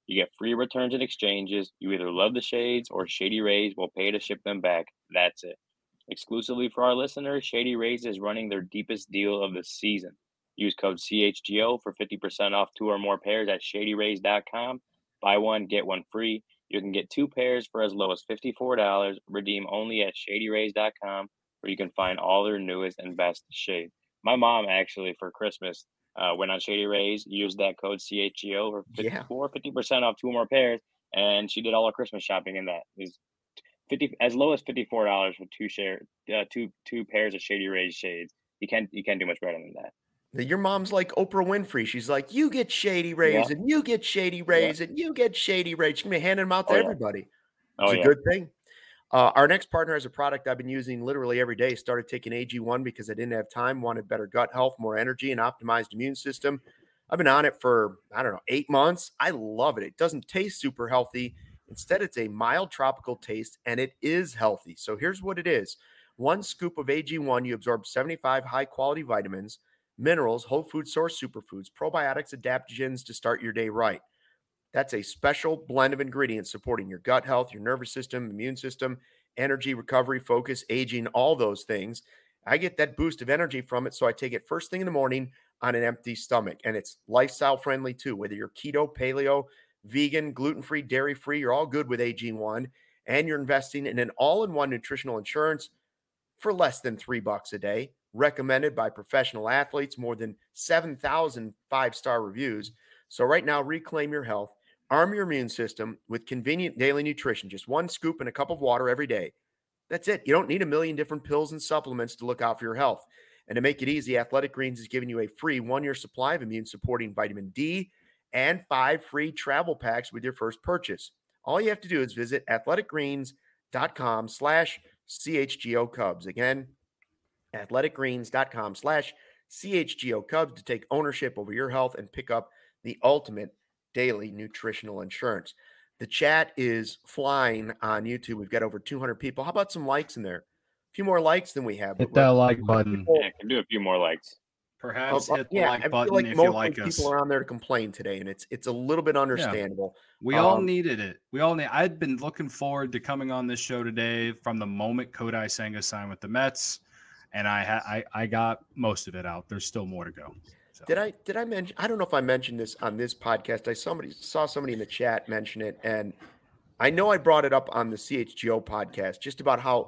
You get free returns and exchanges. You either love the shades or Shady Rays will pay to ship them back. That's it. Exclusively for our listeners, Shady Rays is running their deepest deal of the season. Use code C H G O for fifty percent off two or more pairs at shady rays dot com. Buy one, get one free. You can get two pairs for as low as fifty-four dollars. Redeem only at shady rays dot com, where you can find all their newest and best shade. My mom actually, for Christmas, uh, went on Shady Rays, used that code C H G O for fifty-four, fifty percent off two or more pairs, and she did all her Christmas shopping in that. It was fifty as low as fifty-four dollars for two share uh, two two pairs of Shady Rays shades. You can't you can't do much better than that. Your mom's like Oprah Winfrey. She's like, you get Shady Rays, Yeah. and you get Shady Rays, Yeah. and you get Shady Rays. She's gonna be handing them out to Oh, yeah. everybody. Oh, It's a yeah. good thing. Uh, our next partner has a product I've been using literally every day. Started taking A G one because I didn't have time, wanted better gut health, more energy, and optimized immune system. I've been on it for, I don't know, eight months. I love it. It doesn't taste super healthy. Instead, it's a mild tropical taste, and it is healthy. So here's what it is. One scoop of A G one, you absorb seventy-five high-quality vitamins, minerals, whole food source superfoods, probiotics, adaptogens to start your day right. That's a special blend of ingredients supporting your gut health, your nervous system, immune system, energy, recovery, focus, aging, all those things. I get that boost of energy from it, so I take it first thing in the morning on an empty stomach. And it's lifestyle friendly too, whether you're keto, paleo, vegan, gluten-free, dairy-free, you're all good with A G one. And you're investing in an all-in-one nutritional insurance for less than three bucks a day, recommended by professional athletes, more than seven thousand five-star reviews. So right now, reclaim your health. Arm your immune system with convenient daily nutrition, just one scoop and a cup of water every day. That's it. You don't need a million different pills and supplements to look out for your health. And to make it easy, Athletic Greens is giving you a free one-year supply of immune-supporting vitamin D and five free travel packs with your first purchase. All you have to do is visit athletic greens dot com slash C H G O Cubs. Again, athletic greens dot com slash C H G O Cubs to take ownership over your health and pick up the ultimate daily nutritional insurance. The chat is flying on YouTube. We've got over two hundred people. How about some likes in there? A few more likes than we have. Hit that like button. Yeah, I can do a few more likes. Perhaps Uh, hit the yeah, like I feel button like if most you of like the us. people are on there to complain today, and it's it's a little bit understandable. We all Um, needed it. We all need. I'd been looking forward to coming on this show today from the moment Kodai Senga signed with the Mets, and I ha- I I got most of it out. There's still more to go. So. Did I did I mention? I don't know if I mentioned this on this podcast. I somebody saw somebody in the chat mention it, and I know I brought it up on the C H G O podcast just about how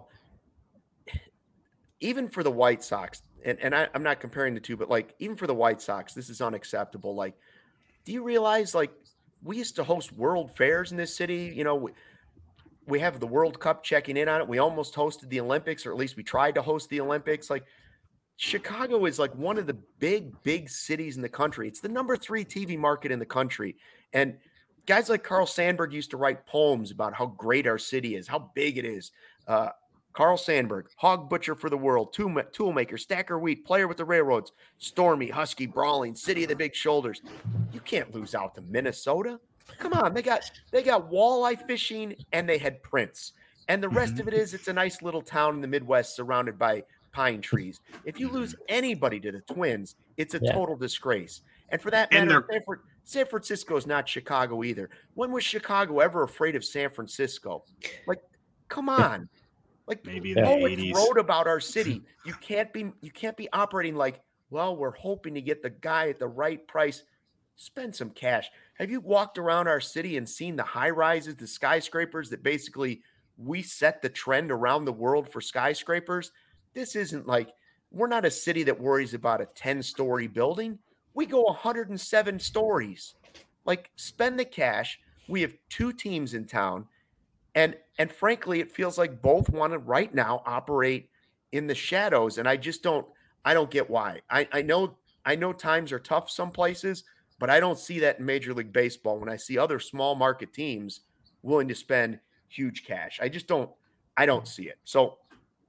even for the White Sox, and, and I, I'm not comparing the two, but like even for the White Sox, this is unacceptable. Like, do you realize like we used to host World Fairs in this city? You know, we, we have the World Cup checking in on it. We almost hosted the Olympics, or at least we tried to host the Olympics. Like, Chicago is like one of the big, big cities in the country. It's the number three T V market in the country. And guys like Carl Sandburg used to write poems about how great our city is, how big it is. Uh, Carl Sandburg, hog butcher for the world, tool, toolmaker, stacker wheat, player with the railroads, stormy, husky, brawling, city of the big shoulders. You can't lose out to Minnesota. Come on, they got they got walleye fishing and they had Prince. And the rest of it is it's a nice little town in the Midwest surrounded by pine trees. If you lose anybody to the Twins, it's a Yeah. total disgrace. And for that And matter, they're- San, Fran- San Francisco is not Chicago either. When was Chicago ever afraid of San Francisco? Like, come on. Like, Maybe in the poets eighties. wrote about our city. You can't be you can't be operating like, well, we're hoping to get the guy at the right price. Spend some cash. Have you walked around our city and seen the high rises, the skyscrapers that basically we set the trend around the world for skyscrapers? This isn't like we're not a city that worries about a ten-story building. We go one hundred seven stories. Like, spend the cash. We have two teams in town. And and frankly, it feels like both want to right now operate in the shadows. And I just don't I don't get why. I, I know I know times are tough some places, but I don't see that in Major League Baseball when I see other small market teams willing to spend huge cash. I just don't I don't see it. So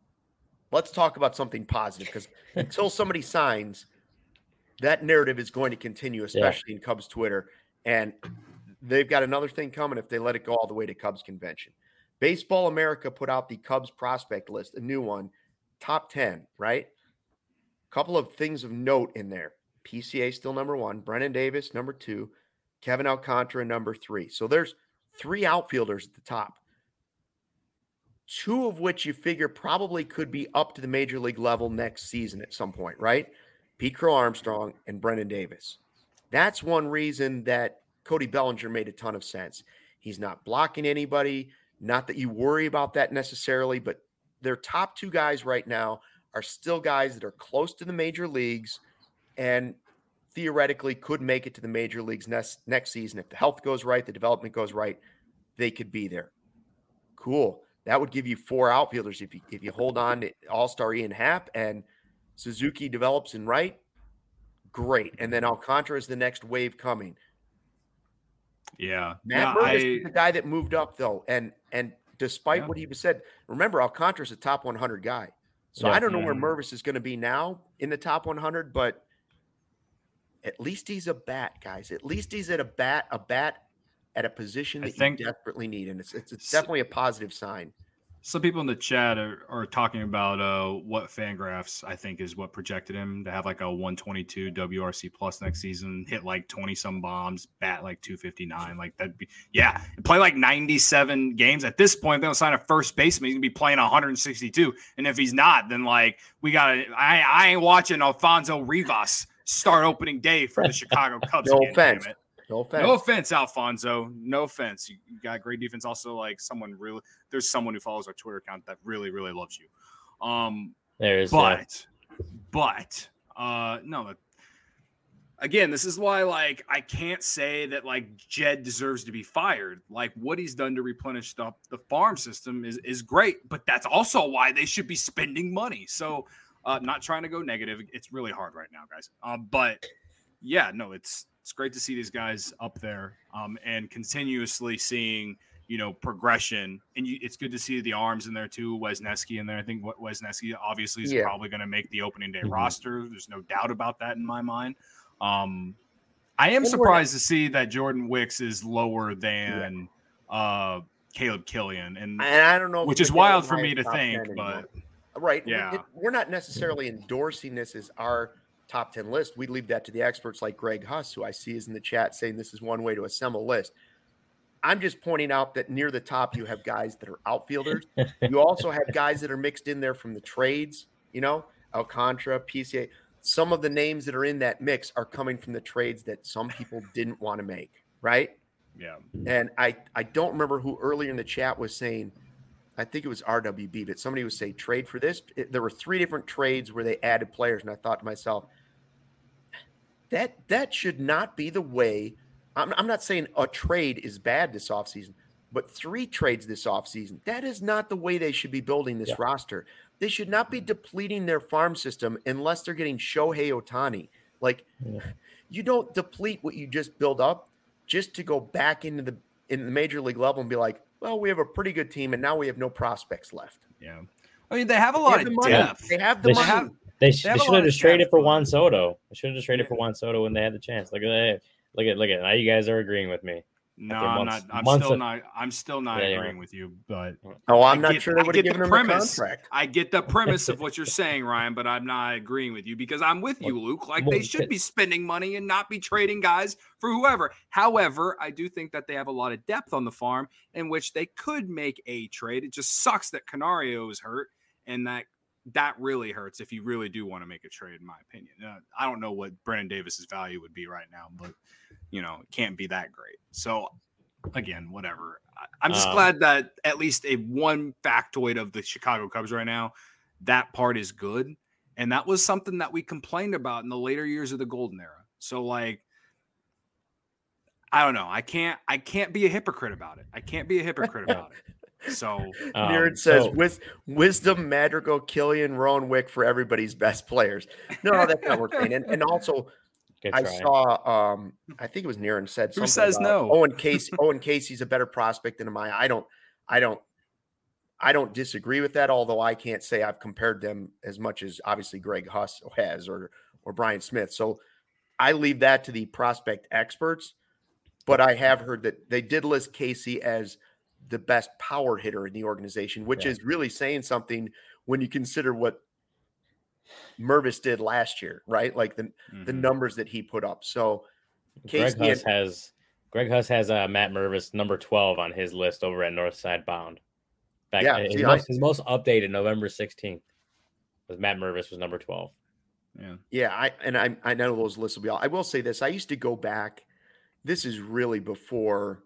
let's talk about something positive, because until somebody signs, that narrative is going to continue, especially in Cubs Twitter. And they've got another thing coming if they let it go all the way to Cubs convention. Baseball America put out the Cubs prospect list, a new one, top ten, right? Couple of things of note in there. P C A still number one, Brennan Davis number two, Kevin Alcantara, number three. So there's three outfielders at the top, two of which you figure probably could be up to the major league level next season at some point, right? Pete Crow Armstrong and Brennan Davis. That's one reason that Cody Bellinger made a ton of sense. He's not blocking anybody. Not that you worry about that necessarily, but their top two guys right now are still guys that are close to the major leagues and theoretically could make it to the major leagues next, next season. If the health goes right, the development goes right, they could be there. Cool. That would give you four outfielders if you, if you hold on to All-Star Ian Happ and Suzuki develops in right, great. And then Alcantara is the next wave coming. Yeah. Matt yeah, Mervis I, is the guy that moved up, though. And and despite yeah. what he said, remember, Alcantara is a top one hundred guy. So yeah. I don't know where Mhm. Mervis is going to be now in the top one hundred, but at least he's a bat, guys. At least he's at a bat, a bat at a position I that think- you desperately need. And it's, it's, it's definitely a positive sign. Some people in the chat are, are talking about uh, what Fangraphs, I think, is what projected him to have like a one twenty-two W R C plus next season, hit like twenty some bombs, bat like two fifty-nine. Like that'd be, yeah, play like ninety-seven games. At this point, they'll sign a first baseman. He's gonna be playing one sixty-two. And if he's not, then like we got to, I, I ain't watching Alfonso Rivas start opening day for the Chicago Cubs. No again, offense. damn it. No offense. No offense, Alfonso. No offense. You, you got great defense. Also, like someone really, there's someone who follows our Twitter account that really, really loves you. Um, There is, but, but, uh, no. Again, this is why, like, I can't say that like Jed deserves to be fired. Like, what he's done to replenish the the farm system is is great, but that's also why they should be spending money. So, uh, not trying to go negative. It's really hard right now, guys. Uh, but yeah, no, it's. It's great to see these guys up there um, and continuously seeing, you know, progression. And you, it's good to see the arms in there too. Wesneski in there. I think what Wesneski obviously is Yeah. probably going to make the opening day Mhm. roster. There's no doubt about that in my mind. Um, I am And we're surprised to see that Jordan Wicks is lower than uh, Caleb Killian, and And I don't know, if which we is can wild get for him me in to top think, ten but anymore. Right. Yeah. It, we're not necessarily endorsing this as our top ten list. We leave that to the experts like Greg Huss, who I see is in the chat saying this is one way to assemble a list. I'm just pointing out that near the top, you have guys that are outfielders. You also have guys that are mixed in there from the trades, you know, Alcantara, P C A. Some of the names that are in that mix are coming from the trades that some people didn't want to make, right? yeah, And I, I don't remember who earlier in the chat was saying, I think it was R W B, but somebody was saying trade for this. It, there were three different trades where they added players. And I thought to myself, that that should not be the way. I'm, I'm not saying a trade is bad this offseason, but three trades this offseason, that is not the way they should be building this Yeah. roster. They should not be depleting their farm system unless they're getting Shohei Ohtani. Like, Yeah. you don't deplete what you just build up just to go back into the in the major league level and be like, well, we have a pretty good team, and now we have no prospects left. yeah. I mean, they have a They lot have of the money. depth. They have the They money. have- They, sh- They have they a should lot have of just traded depth, for but- Juan Soto. They should have just traded Yeah. for Juan Soto when they had the chance. Look at that. Look at look at now. You guys are agreeing with me. No, After I'm months- not. I'm months still of- not. I'm still not Yeah, you agreeing are. with you, but Oh, I'm I not get- sure they I would have get given the him premise. the contract. I get the premise of what you're saying, Ryan, but I'm not agreeing with you because I'm with you, Luke. Like they well, should c- be spending money and not be trading guys for whoever. However, I do think that they have a lot of depth on the farm in which they could make a trade. It just sucks that Canario is hurt, and that that really hurts if you really do want to make a trade, in my opinion. Uh, I don't know what Brennan Davis's value would be right now, but you know, it can't be that great. So again, whatever. I, I'm just Um, glad that at least a one factoid of the Chicago Cubs right now, that part is good. And that was something that we complained about in the later years of the golden era. So like, I don't know. I can't, I can't be a hypocrite about it. I can't be a hypocrite about it. So Um, Neerd says, so- Wis- wisdom, Madrigal, Killian, Rowan Wick for everybody's best players. No, that's not what we're saying. And, and also, Good I try. saw, um, I think it was Niren said Who something says about no? Owen Casey. Owen Casey's a better prospect than Amaya. I don't, I don't, I don't disagree with that. Although I can't say I've compared them as much as obviously Greg Huss has or or Brian Smith. So I leave that to the prospect experts. But I have heard that they did list Casey as the best power hitter in the organization, which Yeah. is really saying something when you consider what Mervis did last year, right? Like the the mhm. numbers that he put up. So Greg Casey Huss and- has Greg Huss has uh, Matt Mervis number twelve on his list over at Northside Bound. Back, Yeah, his, see, most, I, his most updated November sixteenth was Matt Mervis was number twelve. Yeah. yeah, I and I I know those lists will be all. I will say this: I used to go back. This is really before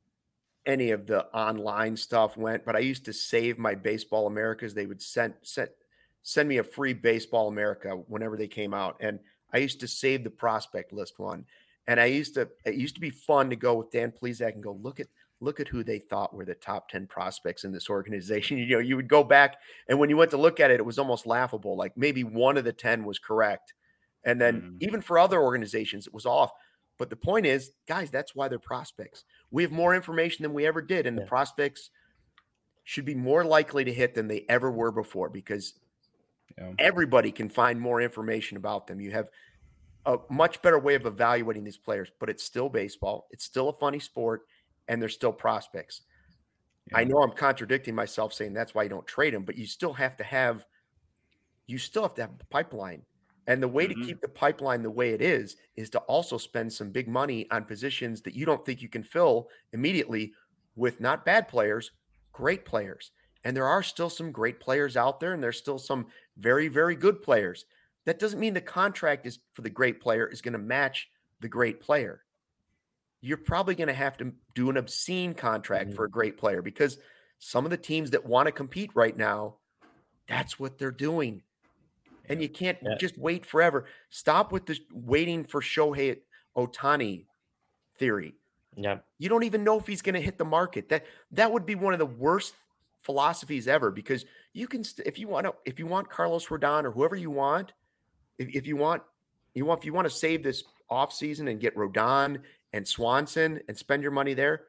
any of the online stuff went, but I used to save my Baseball Americas. They would send send send me a free Baseball America whenever they came out, and I used to save the prospect list one. And I used to it used to be fun to go with Dan Plesac and go look at look at who they thought were the top ten prospects in this organization. You know, you would go back, and when you went to look at it, it was almost laughable. Like maybe one of the ten was correct, and then Mm. even for other organizations, it was off. But the point is, guys, that's why they're prospects. We have more information than we ever did, and Yeah. the prospects should be more likely to hit than they ever were before because Yeah. everybody can find more information about them. You have a much better way of evaluating these players, but it's still baseball. It's still a funny sport, and they're still prospects. Yeah. I know I'm contradicting myself saying that's why you don't trade them, but you still have to have you still have to have a pipeline. And the way Mhm. to keep the pipeline the way it is is to also spend some big money on positions that you don't think you can fill immediately with not bad players, great players. And there are still some great players out there, and there's still some very, very good players. That doesn't mean the contract is for the great player is going to match the great player. You're probably going to have to do an obscene contract Mhm. for a great player because some of the teams that want to compete right now, that's what they're doing. And you can't Yeah. just wait forever. Stop with this waiting for Shohei Ohtani theory. Yeah. You don't even know if he's going to hit the market. That that would be one of the worst philosophies ever because you can st- if you want to if you want Carlos Rodon or whoever you want, if, if you want you want if you want to save this offseason and get Rodon and Swanson and spend your money there,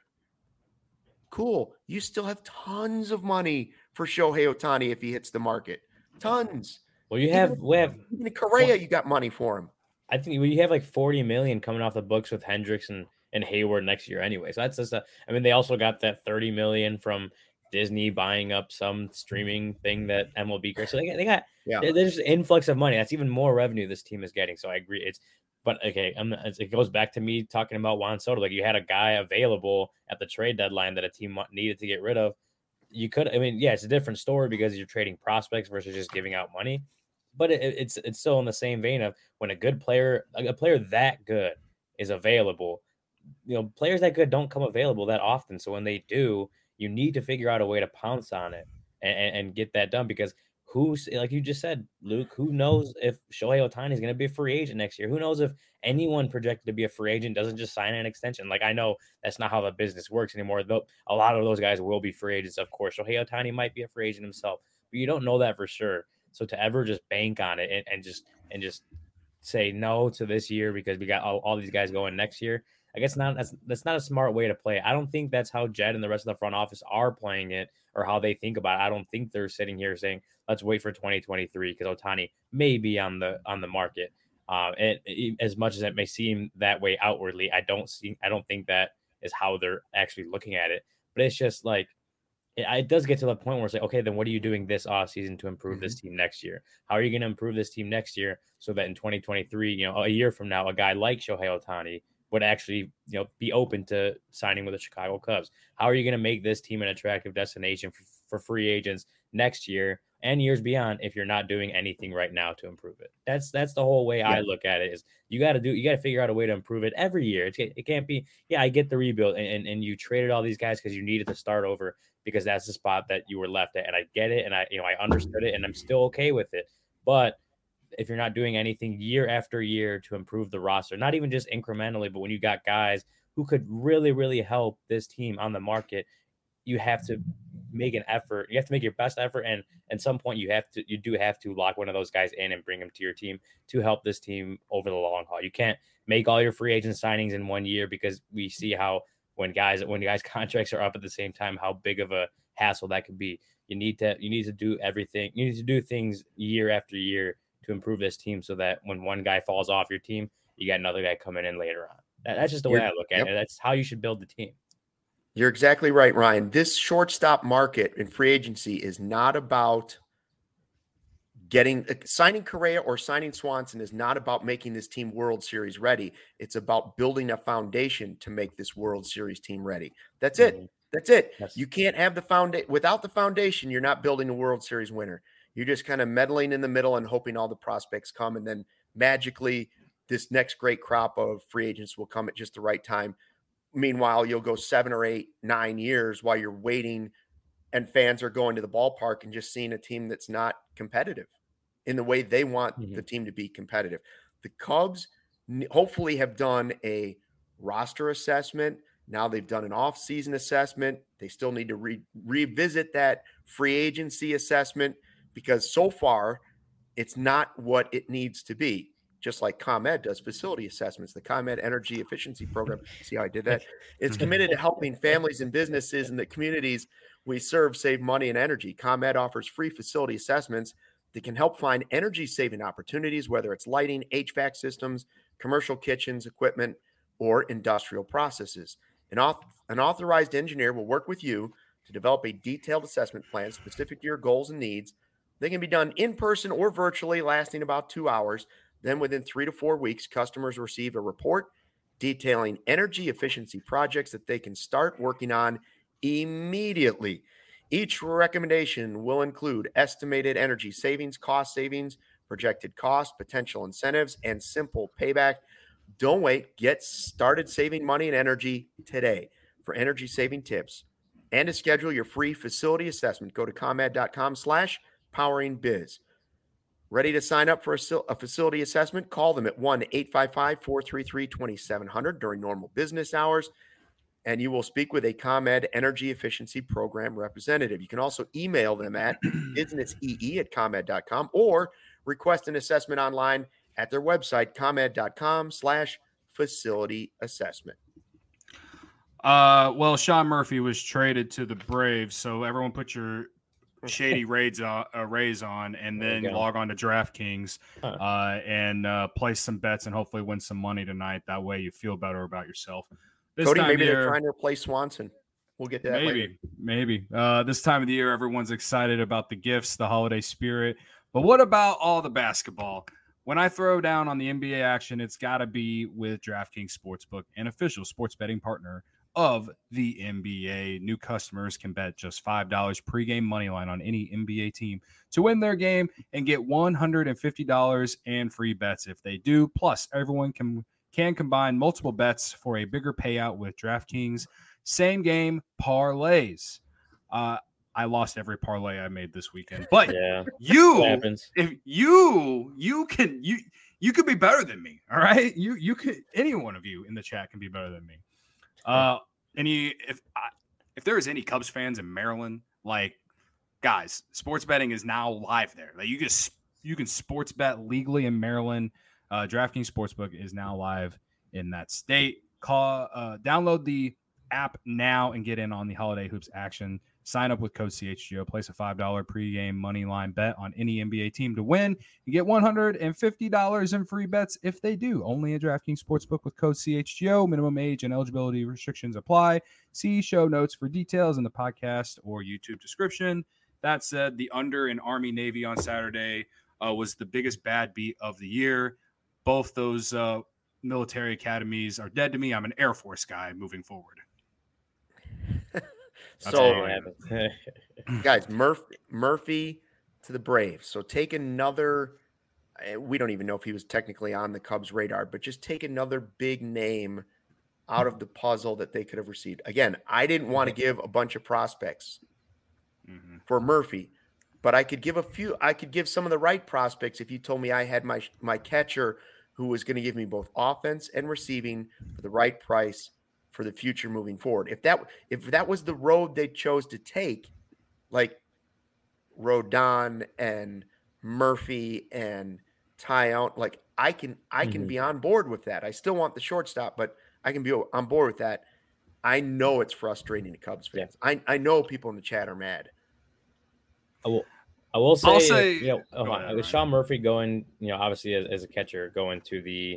cool. You still have tons of money for Shohei Ohtani if he hits the market. Tons. Well, you have we have Even in Correa, you got money for him. I think you have like forty million coming off the books with Hendricks and, and Hayward next year anyway. So that's just a, I mean, they also got that thirty million from Disney buying up some streaming thing that M L B. So they got, they got Yeah. there's an influx of money. That's even more revenue this team is getting. So I agree. It's, but okay, I'm, it goes back to me talking about Juan Soto. Like you had a guy available at the trade deadline that a team needed to get rid of. You could, I mean, yeah, it's a different story because you're trading prospects versus just giving out money. But it, it's it's still in the same vein of when a good player, a player that good is available, you know, players that good don't come available that often. So when they do, you need to figure out a way to pounce on it and, and, and get that done because who's, like you just said, Luke, who knows if Shohei Ohtani is going to be a free agent next year? Who knows if anyone projected to be a free agent doesn't just sign an extension? Like, I know that's not how the business works anymore. Though a lot of those guys will be free agents, of course. Shohei Ohtani might be a free agent himself, but you don't know that for sure. So to ever just bank on it and, and just and just say no to this year because we got all, all these guys going next year, I guess not that's that's not a smart way to play it. I don't think that's how Jed and the rest of the front office are playing it or how they think about it. I don't think they're sitting here saying, let's wait for twenty twenty-three because Ohtani may be on the on the market. Uh, and it, as much as it may seem that way outwardly, I don't see I don't think that is how they're actually looking at it. But it's just like it, it does get to the point where it's like, okay, then what are you doing this offseason to improve mm-hmm. this team next year? How are you going to improve this team next year so that in twenty twenty-three, you know, a year from now, a guy like Shohei Ohtani would actually, you know, be open to signing with the Chicago Cubs? How are you going to make this team an attractive destination for, for free agents next year and years beyond if you're not doing anything right now to improve it? That's that's the whole way yeah. I look at it. Is you got to do you got to figure out a way to improve it every year. It's, it can't be yeah I get the rebuild and, and, and you traded all these guys because you needed to start over because that's the spot that you were left at, and I get it and I you know I understood it and I'm still okay with it. But if you're not doing anything year after year to improve the roster, not even just incrementally, but when you got guys who could really really help this team on the market, you have to make an effort. You have to make your best effort. And at some point you have to, you do have to lock one of those guys in and bring them to your team to help this team over the long haul. You can't make all your free agent signings in one year because we see how when guys, when guys contracts are up at the same time, how big of a hassle that could be. You need to, you need to do everything. You need to do things year after year to improve this team so that when one guy falls off your team, you got another guy coming in later on. That, that's just the You're, way I look at yep. it. That's how you should build the team. You're exactly right, Ryan. This shortstop market in free agency is not about Getting signing Correa or signing Swanson is not about making this team World Series ready. It's about building a foundation to make this World Series team ready. That's it. Mhm. That's it. Yes. You can't have the foundation without the foundation. You're not building a World Series winner. You're just kind of meddling in the middle and hoping all the prospects come, and then magically this next great crop of free agents will come at just the right time. Meanwhile, you'll go seven or eight, nine years while you're waiting, and fans are going to the ballpark and just seeing a team that's not competitive in the way they want Mhm. the team to be competitive. The Cubs n- hopefully have done a roster assessment. Now they've done an off-season assessment. They still need to re- revisit that free agency assessment because so far it's not what it needs to be. Just like ComEd does facility assessments, the ComEd Energy Efficiency Program. See how I did that? It's committed to helping families and businesses in the communities we serve save money and energy. ComEd offers free facility assessments that can help find energy-saving opportunities, whether it's lighting, H V A C systems, commercial kitchens, equipment, or industrial processes. An, auth- an authorized engineer will work with you to develop a detailed assessment plan specific to your goals and needs. They can be done in person or virtually, lasting about two hours. Then within three to four weeks, customers receive a report detailing energy efficiency projects that they can start working on immediately. Each recommendation will include estimated energy savings, cost savings, projected cost, potential incentives, and simple payback. Don't wait. Get started saving money and energy today. For energy saving tips and to schedule your free facility assessment, go to ComEd.com slash powering biz. Ready to sign up for a, a facility assessment? Call them at one eight five five, four three three, two seven zero zero during normal business hours, and you will speak with a ComEd Energy Efficiency Program representative. You can also email them at businessee at ComEd dot com or request an assessment online at their website, ComEd.com slash facility assessment. Uh, well, Sean Murphy was traded to the Braves, so everyone put your shady raids on, uh, rays on, and There you then go. log on to DraftKings Huh. uh, and uh, place some bets and hopefully win some money tonight. That way, you feel better about yourself. This Cody, time maybe of they're year, trying to replace Swanson. We'll get to that maybe, later. maybe. Uh, this time of the year, everyone's excited about the gifts, the holiday spirit. But what about all the basketball? When I throw down on the N B A action, it's got to be with DraftKings Sportsbook, an official sports betting partner of the N B A. New customers can bet just five dollars pregame money line on any N B A team to win their game and get one hundred fifty dollars and free bets if they do. Plus, everyone can can combine multiple bets for a bigger payout with DraftKings same game parlays. Uh, I lost every parlay I made this weekend, but Yeah, it you, happens. if you, you can, you, you could be better than me. All right. You, you could, any one of you in the chat can be better than me. Uh, any, if, I, if there is any Cubs fans in Maryland, like guys, sports betting is now live there. Like you just, you can sports bet legally in Maryland. Uh, DraftKings Sportsbook is now live in that state. Call, uh, download the app now and get in on the holiday hoops action. Sign up with code C H G O. Place a five dollars pregame money line bet on any N B A team to win. You get one hundred fifty dollars in free bets if they do. Only at DraftKings Sportsbook with code C H G O. Minimum age and eligibility restrictions apply. See show notes for details in the podcast or YouTube description. That said, the under in Army-Navy on Saturday uh, was the biggest bad beat of the year. Both those uh, military academies are dead to me. I'm an Air Force guy moving forward. That's So, all I got. guys, Murphy, Murphy to the Braves. So take another. We don't even know if he was technically on the Cubs' radar, but just take another big name out of the puzzle that they could have received. Again, I didn't want to give a bunch of prospects Mm-hmm. for Murphy, but I could give a few. I could give some of the right prospects if you told me I had my my catcher who was going to give me both offense and receiving for the right price for the future moving forward. If that if that was the road they chose to take, like Rodon and Murphy and Tyone, like I can I can Mhm. be on board with that. I still want the shortstop, but I can be on board with that. I know it's frustrating to Cubs fans. I, I know people in the chat are mad. I will, I will say, I'll say- you know, go uh, ahead, with Ryan. Sean Murphy going, you know, obviously as, as a catcher going to the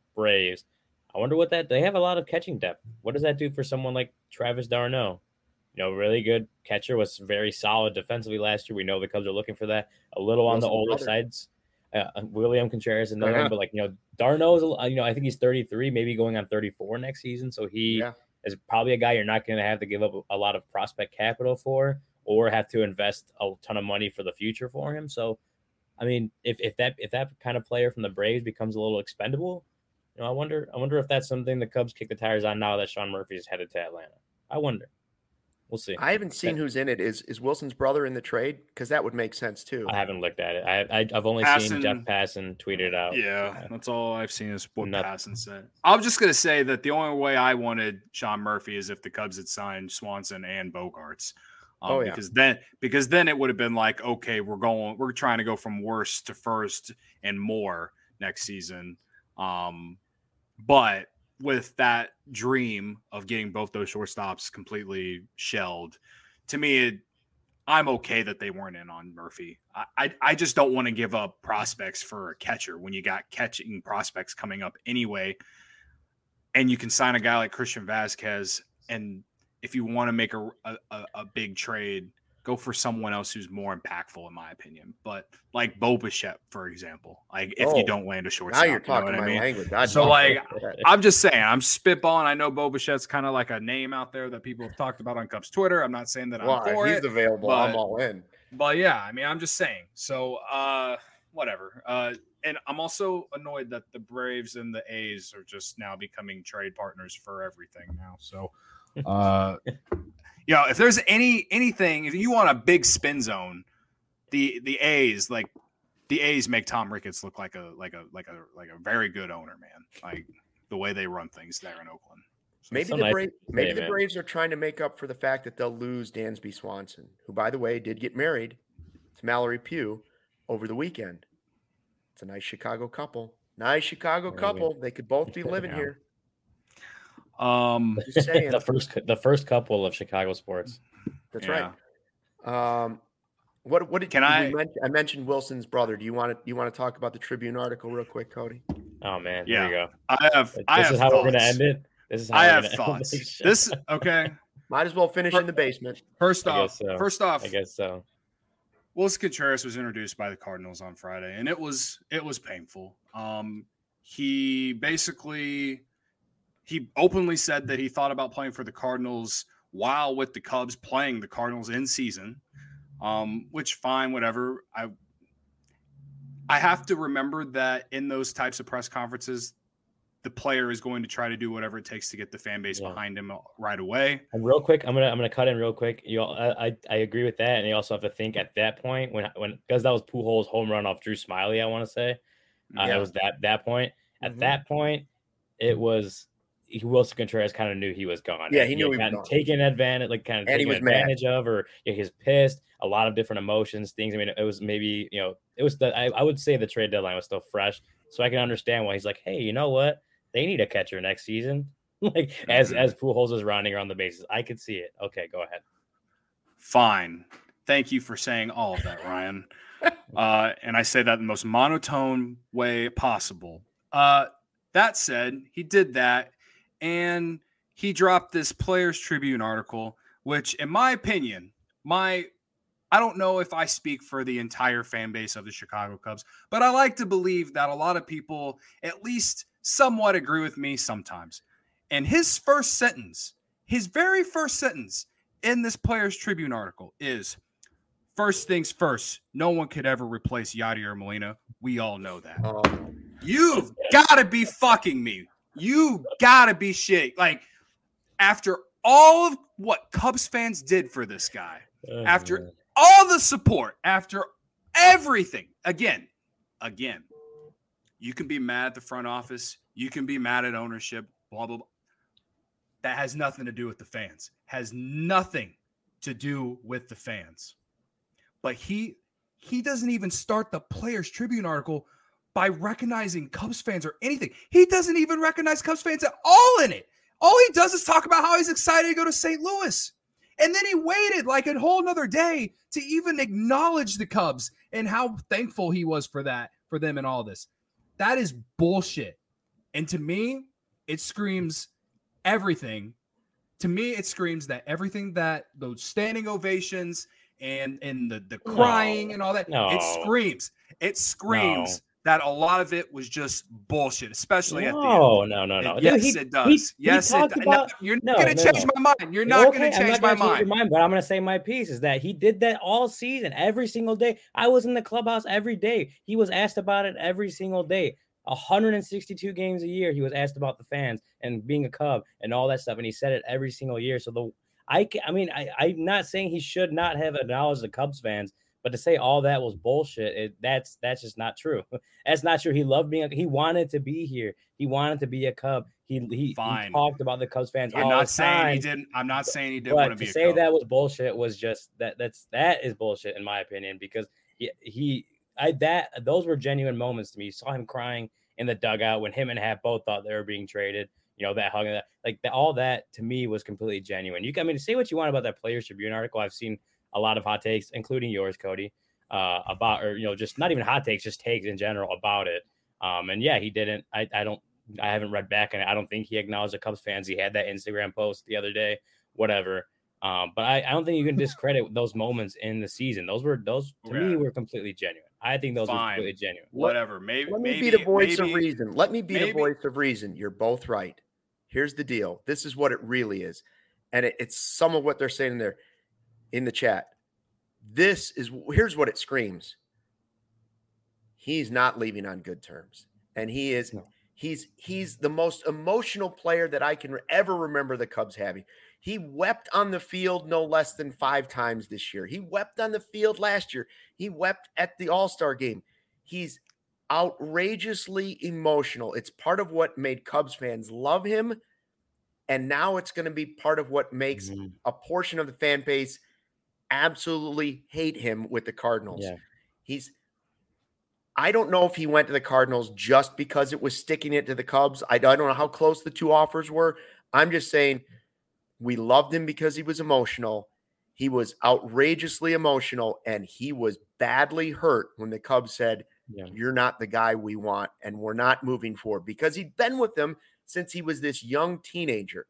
Braves, I wonder what that they have a lot of catching depth. What does that do for someone like Travis d'Arnaud? you know, really good catcher, was very solid defensively last year. We know the Cubs are looking for that. A little on the older brother. sides. Uh, William Contreras, another Uh-huh. one, but like, you know, d'Arnaud is, you know, I think he's thirty-three, maybe going on thirty-four next season. So he Yeah. is probably a guy you're not going to have to give up a lot of prospect capital for, or have to invest a ton of money for the future for him. So, I mean, if, if that if that kind of player from the Braves becomes a little expendable, you know, I wonder I wonder if that's something the Cubs kick the tires on now that Sean Murphy is headed to Atlanta. I wonder. We'll see. I haven't seen who's in it. Is is Wilson's brother in the trade? Because that would make sense too. I haven't looked at it. I, I I've only Passan, seen Jeff Passan tweet it out. Yeah, that's all I've seen is what Nothing. Passan said. I'm just gonna say that the only way I wanted Sean Murphy is if the Cubs had signed Swanson and Bogarts. Um, Oh, yeah. because then because then it would have been like, okay, we're going, we're trying to go from worst to first and more next season. Um, but with that dream of getting both those shortstops completely shelled, to me, it, I'm okay that they weren't in on Murphy. I, I, I just don't want to give up prospects for a catcher when you got catching prospects coming up anyway. And you can sign a guy like Christian Vasquez. And if you want to make a, a, a big trade, go for someone else who's more impactful, in my opinion. But like Bo Bichette, for example, like if Oh, you don't land a shortstop, Now you're talking you know what my I mean? language. I'd So, love like, that. I'm just saying, I'm spitballing. I know Bo Bichette's kind of like a name out there that people have talked about on Cubs Twitter. I'm not saying that Well, I'm for if he's it, available, but- I'm all in. but yeah, I mean, I'm just saying. So, uh, whatever. Uh, and I'm also annoyed that the Braves and the A's are just now becoming trade partners for everything now. So, uh, you know, if there's any anything, if you want a big spin zone, the the A's like the A's make Tom Ricketts look like a like a like a like a very good owner, man. Like the way they run things there in Oakland. Maybe so the nice Braves, to maybe say, the man. Braves are trying to make up for the fact that they'll lose Dansby Swanson, who, by the way, did get married to Mallory Pugh over the weekend. It's a nice Chicago couple. Nice Chicago There you couple. They could both be living Yeah. here. Um, Just saying. the first the first couple of Chicago sports. That's yeah. right. Um, what what did Can we I- mention- I mentioned Wilson's brother. Do you want to you want to talk about the Tribune article real quick, Cody? Oh man, Yeah. here we go. I have This I is have how thoughts. we're gonna end it. This is how I we're have gonna thoughts. End this. This okay. Might as well finish in the basement. First I off, guess so. first off, I guess so. Wilson Contreras was introduced by the Cardinals on Friday, and it was it was painful. Um, he basically he openly said that he thought about playing for the Cardinals while with the Cubs, playing the Cardinals in season. Um, which fine, whatever. I I have to remember that in those types of press conferences, the player is going to try to do whatever it takes to get the fan base Yeah. behind him right away. And real quick, I'm gonna I'm gonna cut in real quick. You, all, I, I I agree with that, and you also have to think at that point when when because that was Pujols' home run off Drew Smiley. I want to say uh, Yeah. it was that that point. At Mhm. that point, it was he, Wilson Contreras kind of knew he was gone. Yeah, And he knew had he was gotten gone. taken advantage, like kind of And he taken was mad. advantage of, or yeah, he's pissed. A lot of different emotions, things. I mean, it was maybe you know, it was the I, I would say the trade deadline was still fresh, so I can understand why he's like, hey, you know what? They need a catcher next season. like as Mhm. as Pujols is rounding around the bases, I could see it. Okay, go ahead. Fine. Thank you for saying all of that, Ryan. uh, and I say that in the most monotone way possible. Uh, that said, he did that, and he dropped this Players Tribune article, which, in my opinion, my I don't know if I speak for the entire fan base of the Chicago Cubs, but I like to believe that a lot of people at least somewhat agree with me sometimes. And his first sentence, his very first sentence in this Players Tribune article is, first things first, no one could ever replace Yadier Molina. We all know that. Um, You've got to be fucking me. You got to be shit. Like, after all of what Cubs fans did for this guy, Oh, After- man. all the support, after everything, again, again, you can be mad at the front office. You can be mad at ownership, blah, blah, blah. That has nothing to do with the fans. Has nothing to do with the fans. But he he doesn't even start the Players Tribune article by recognizing Cubs fans or anything. He doesn't even recognize Cubs fans at all in it. All he does is talk about how he's excited to go to Saint Louis. And then he waited like a whole nother day to even acknowledge the Cubs and how thankful he was for that, for them and all this. That is bullshit. And to me, it screams everything to me, it screams that everything that those standing ovations and and the the crying No. and all that, No. it screams, it screams No. that a lot of it was just bullshit, especially at the end. No, no, no, no. And Dude, yes, he- it does. he- he yes, it talked does. about- No, you're no, not going to no, change no. my mind. You're not Okay, going to I'm change not my gonna change your mind. mind, but I'm gonna say my piece is that he did that all season, every single day. I was in the clubhouse every day. He was asked about it every single day. one hundred sixty-two games a year, he was asked about the fans and being a Cub and all that stuff, and he said it every single year. So the I, ca- I mean, I, I'm not saying he should not have acknowledged the Cubs fans, but to say all that was bullshit, it, that's that's just not true. That's not true. He loved being. A, he wanted to be here. He wanted to be a Cub. He he, he Fine. talked about the Cubs fans. I'm all not the saying time. he didn't. I'm not saying he didn't want But to be to a say Cub. that was bullshit was just that. That's that is bullshit in my opinion because he he I that those were genuine moments to me. You saw him crying in the dugout when him and Hap both thought they were being traded. You know, that hug and that like that, all that to me was completely genuine. You can, I mean, say what you want about that Players Tribune article. I've seen a lot of hot takes, including yours, Cody, uh, about or you know, just not even hot takes, just takes in general about it. Um, and yeah, he didn't. I I don't. I haven't read back, and I don't think he acknowledged the Cubs fans. He had that Instagram post the other day, whatever. Um, but I, I don't think you can discredit those moments in the season. Those were those to Yeah. me were completely genuine. I think those Fine. were completely genuine. Whatever. Maybe. Let me maybe, be the voice maybe, of reason. Let me be maybe- the voice of reason. You're both right. Here's the deal. This is what it really is. And it, it's some of what they're saying there in the chat. This is, here's what it screams. He's not leaving on good terms. And he is, No. he's, he's the most emotional player that I can ever remember the Cubs having. He wept on the field no less than five times this year. He wept on the field last year. He wept at the All-Star game. He's outrageously emotional. It's part of what made Cubs fans love him. And now it's going to be part of what makes Mhm. a portion of the fan base absolutely hate him with the Cardinals. Yeah. He's, I don't know if he went to the Cardinals just because it was sticking it to the Cubs. I don't know how close the two offers were. I'm just saying we loved him because he was emotional. He was outrageously emotional, and he was badly hurt when the Cubs said, Yeah. you're not the guy we want, and we're not moving forward, because he'd been with them since he was this young teenager.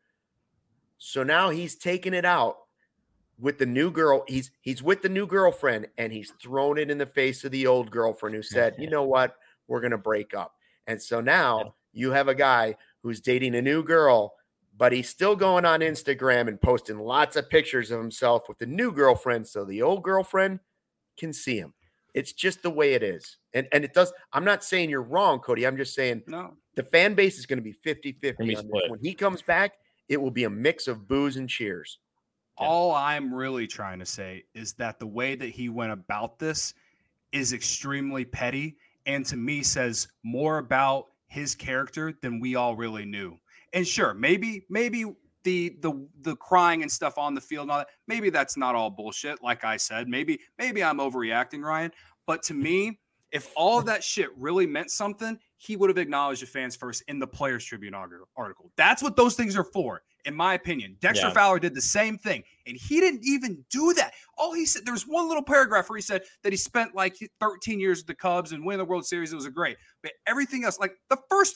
So now he's taking it out with the new girl. He's he's with the new girlfriend, and he's thrown it in the face of the old girlfriend who said, you know what, we're going to break up. And so now you have a guy who's dating a new girl, but he's still going on Instagram and posting lots of pictures of himself with the new girlfriend so the old girlfriend can see him. It's just the way it is. And and it does. I'm not saying you're wrong, Cody. I'm just saying No. the fan base is going to be fifty-fifty Gonna be on this. split. When he comes back, it will be a mix of boos and cheers. Yeah. All I'm really trying to say is that the way that he went about this is extremely petty, and to me says more about his character than we all really knew. And sure, maybe maybe the the the crying and stuff on the field and all that, maybe that's not all bullshit. Like I said, maybe maybe I'm overreacting, Ryan. But to me, if all of that shit really meant something, he would have acknowledged the fans first in the Players Tribune article. That's what those things are for, in my opinion. Dexter Yeah. Fowler did the same thing, and he didn't even do that. All he said, there was one little paragraph where he said that he spent like thirteen years with the Cubs and winning the World Series. It was a great, but everything else, like the first,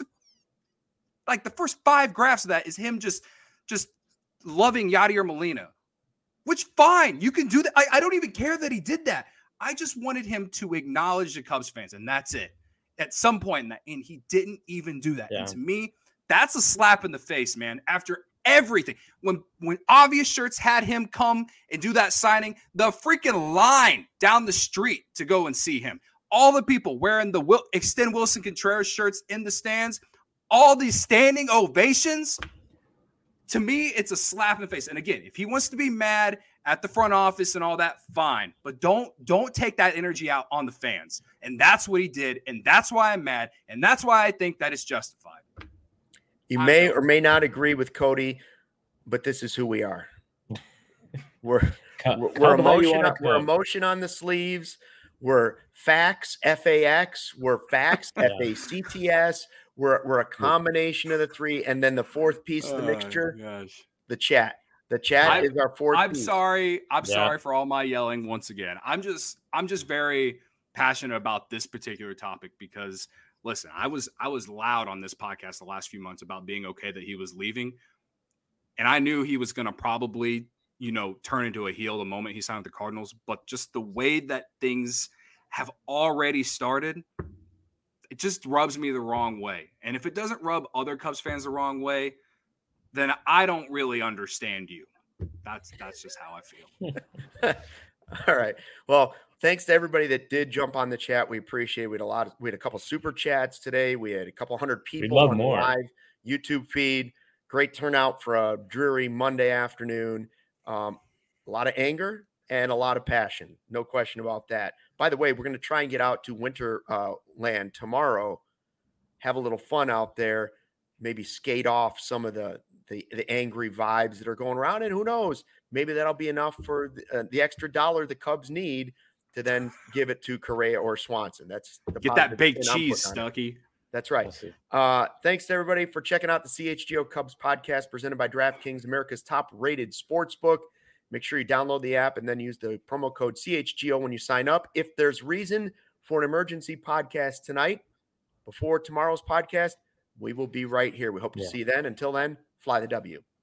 like the first five graphs of that is him just, just loving Yadier Molina, which fine, you can do that. I, I don't even care that he did that. I just wanted him to acknowledge the Cubs fans, and that's it. At some point in that, and he didn't even do that. Yeah. And to me, that's a slap in the face, man. After everything, when when Obvious Shirts had him come and do that signing, the freaking line down the street to go and see him, all the people wearing the Will, Extend Wilson Contreras shirts in the stands, all these standing ovations. To me, it's a slap in the face. And again, if he wants to be mad at the front office and all that, fine. But don't don't take that energy out on the fans. And that's what he did. And that's why I'm mad. And that's why I think that it's justified. You I may know. or may not agree with Cody, but this is who we are. We're Cut- we're, cut we're them how you emotion. wanna On, we're cut. emotion on the sleeves. We're facts, F A X. We're facts, Yeah. F A C T S. We're we're a combination of the three, and then the fourth piece of the mixture, Gosh. the chat. The chat I- is our fourth. I'm piece. sorry. I'm Yeah. sorry for all my yelling once again. I'm just I'm just very passionate about this particular topic because listen, I was I was loud on this podcast the last few months about being okay that he was leaving. And I knew he was going to probably, you know, turn into a heel the moment he signed with the Cardinals. But just the way that things have already started, it just rubs me the wrong way. And if it doesn't rub other Cubs fans the wrong way, then I don't really understand you. That's that's just how I feel. All right. Well, thanks to everybody that did jump on the chat. We appreciate it. We had a lot of, we had a couple super chats today. We had a couple hundred people love on more. the live YouTube feed. Great turnout for a dreary Monday afternoon. Um, a lot of anger and a lot of passion. No question about that. By the way, we're going to try and get out to Winter uh, Land tomorrow. Have a little fun out there. Maybe skate off some of the, the, the angry vibes that are going around. And who knows, maybe that'll be enough for the, uh, the extra dollar the Cubs need to then give it to Correa or Swanson. That's the Get that baked spin I'm cheese, putting on it. Stucky. That's right. Uh, thanks to everybody for checking out the C H G O Cubs podcast presented by DraftKings, America's top-rated sportsbook. Make sure you download the app and then use the promo code C H G O when you sign up. If there's reason for an emergency podcast tonight, before tomorrow's podcast, we will be right here. We hope to Yeah. see you then. Until then, fly the W.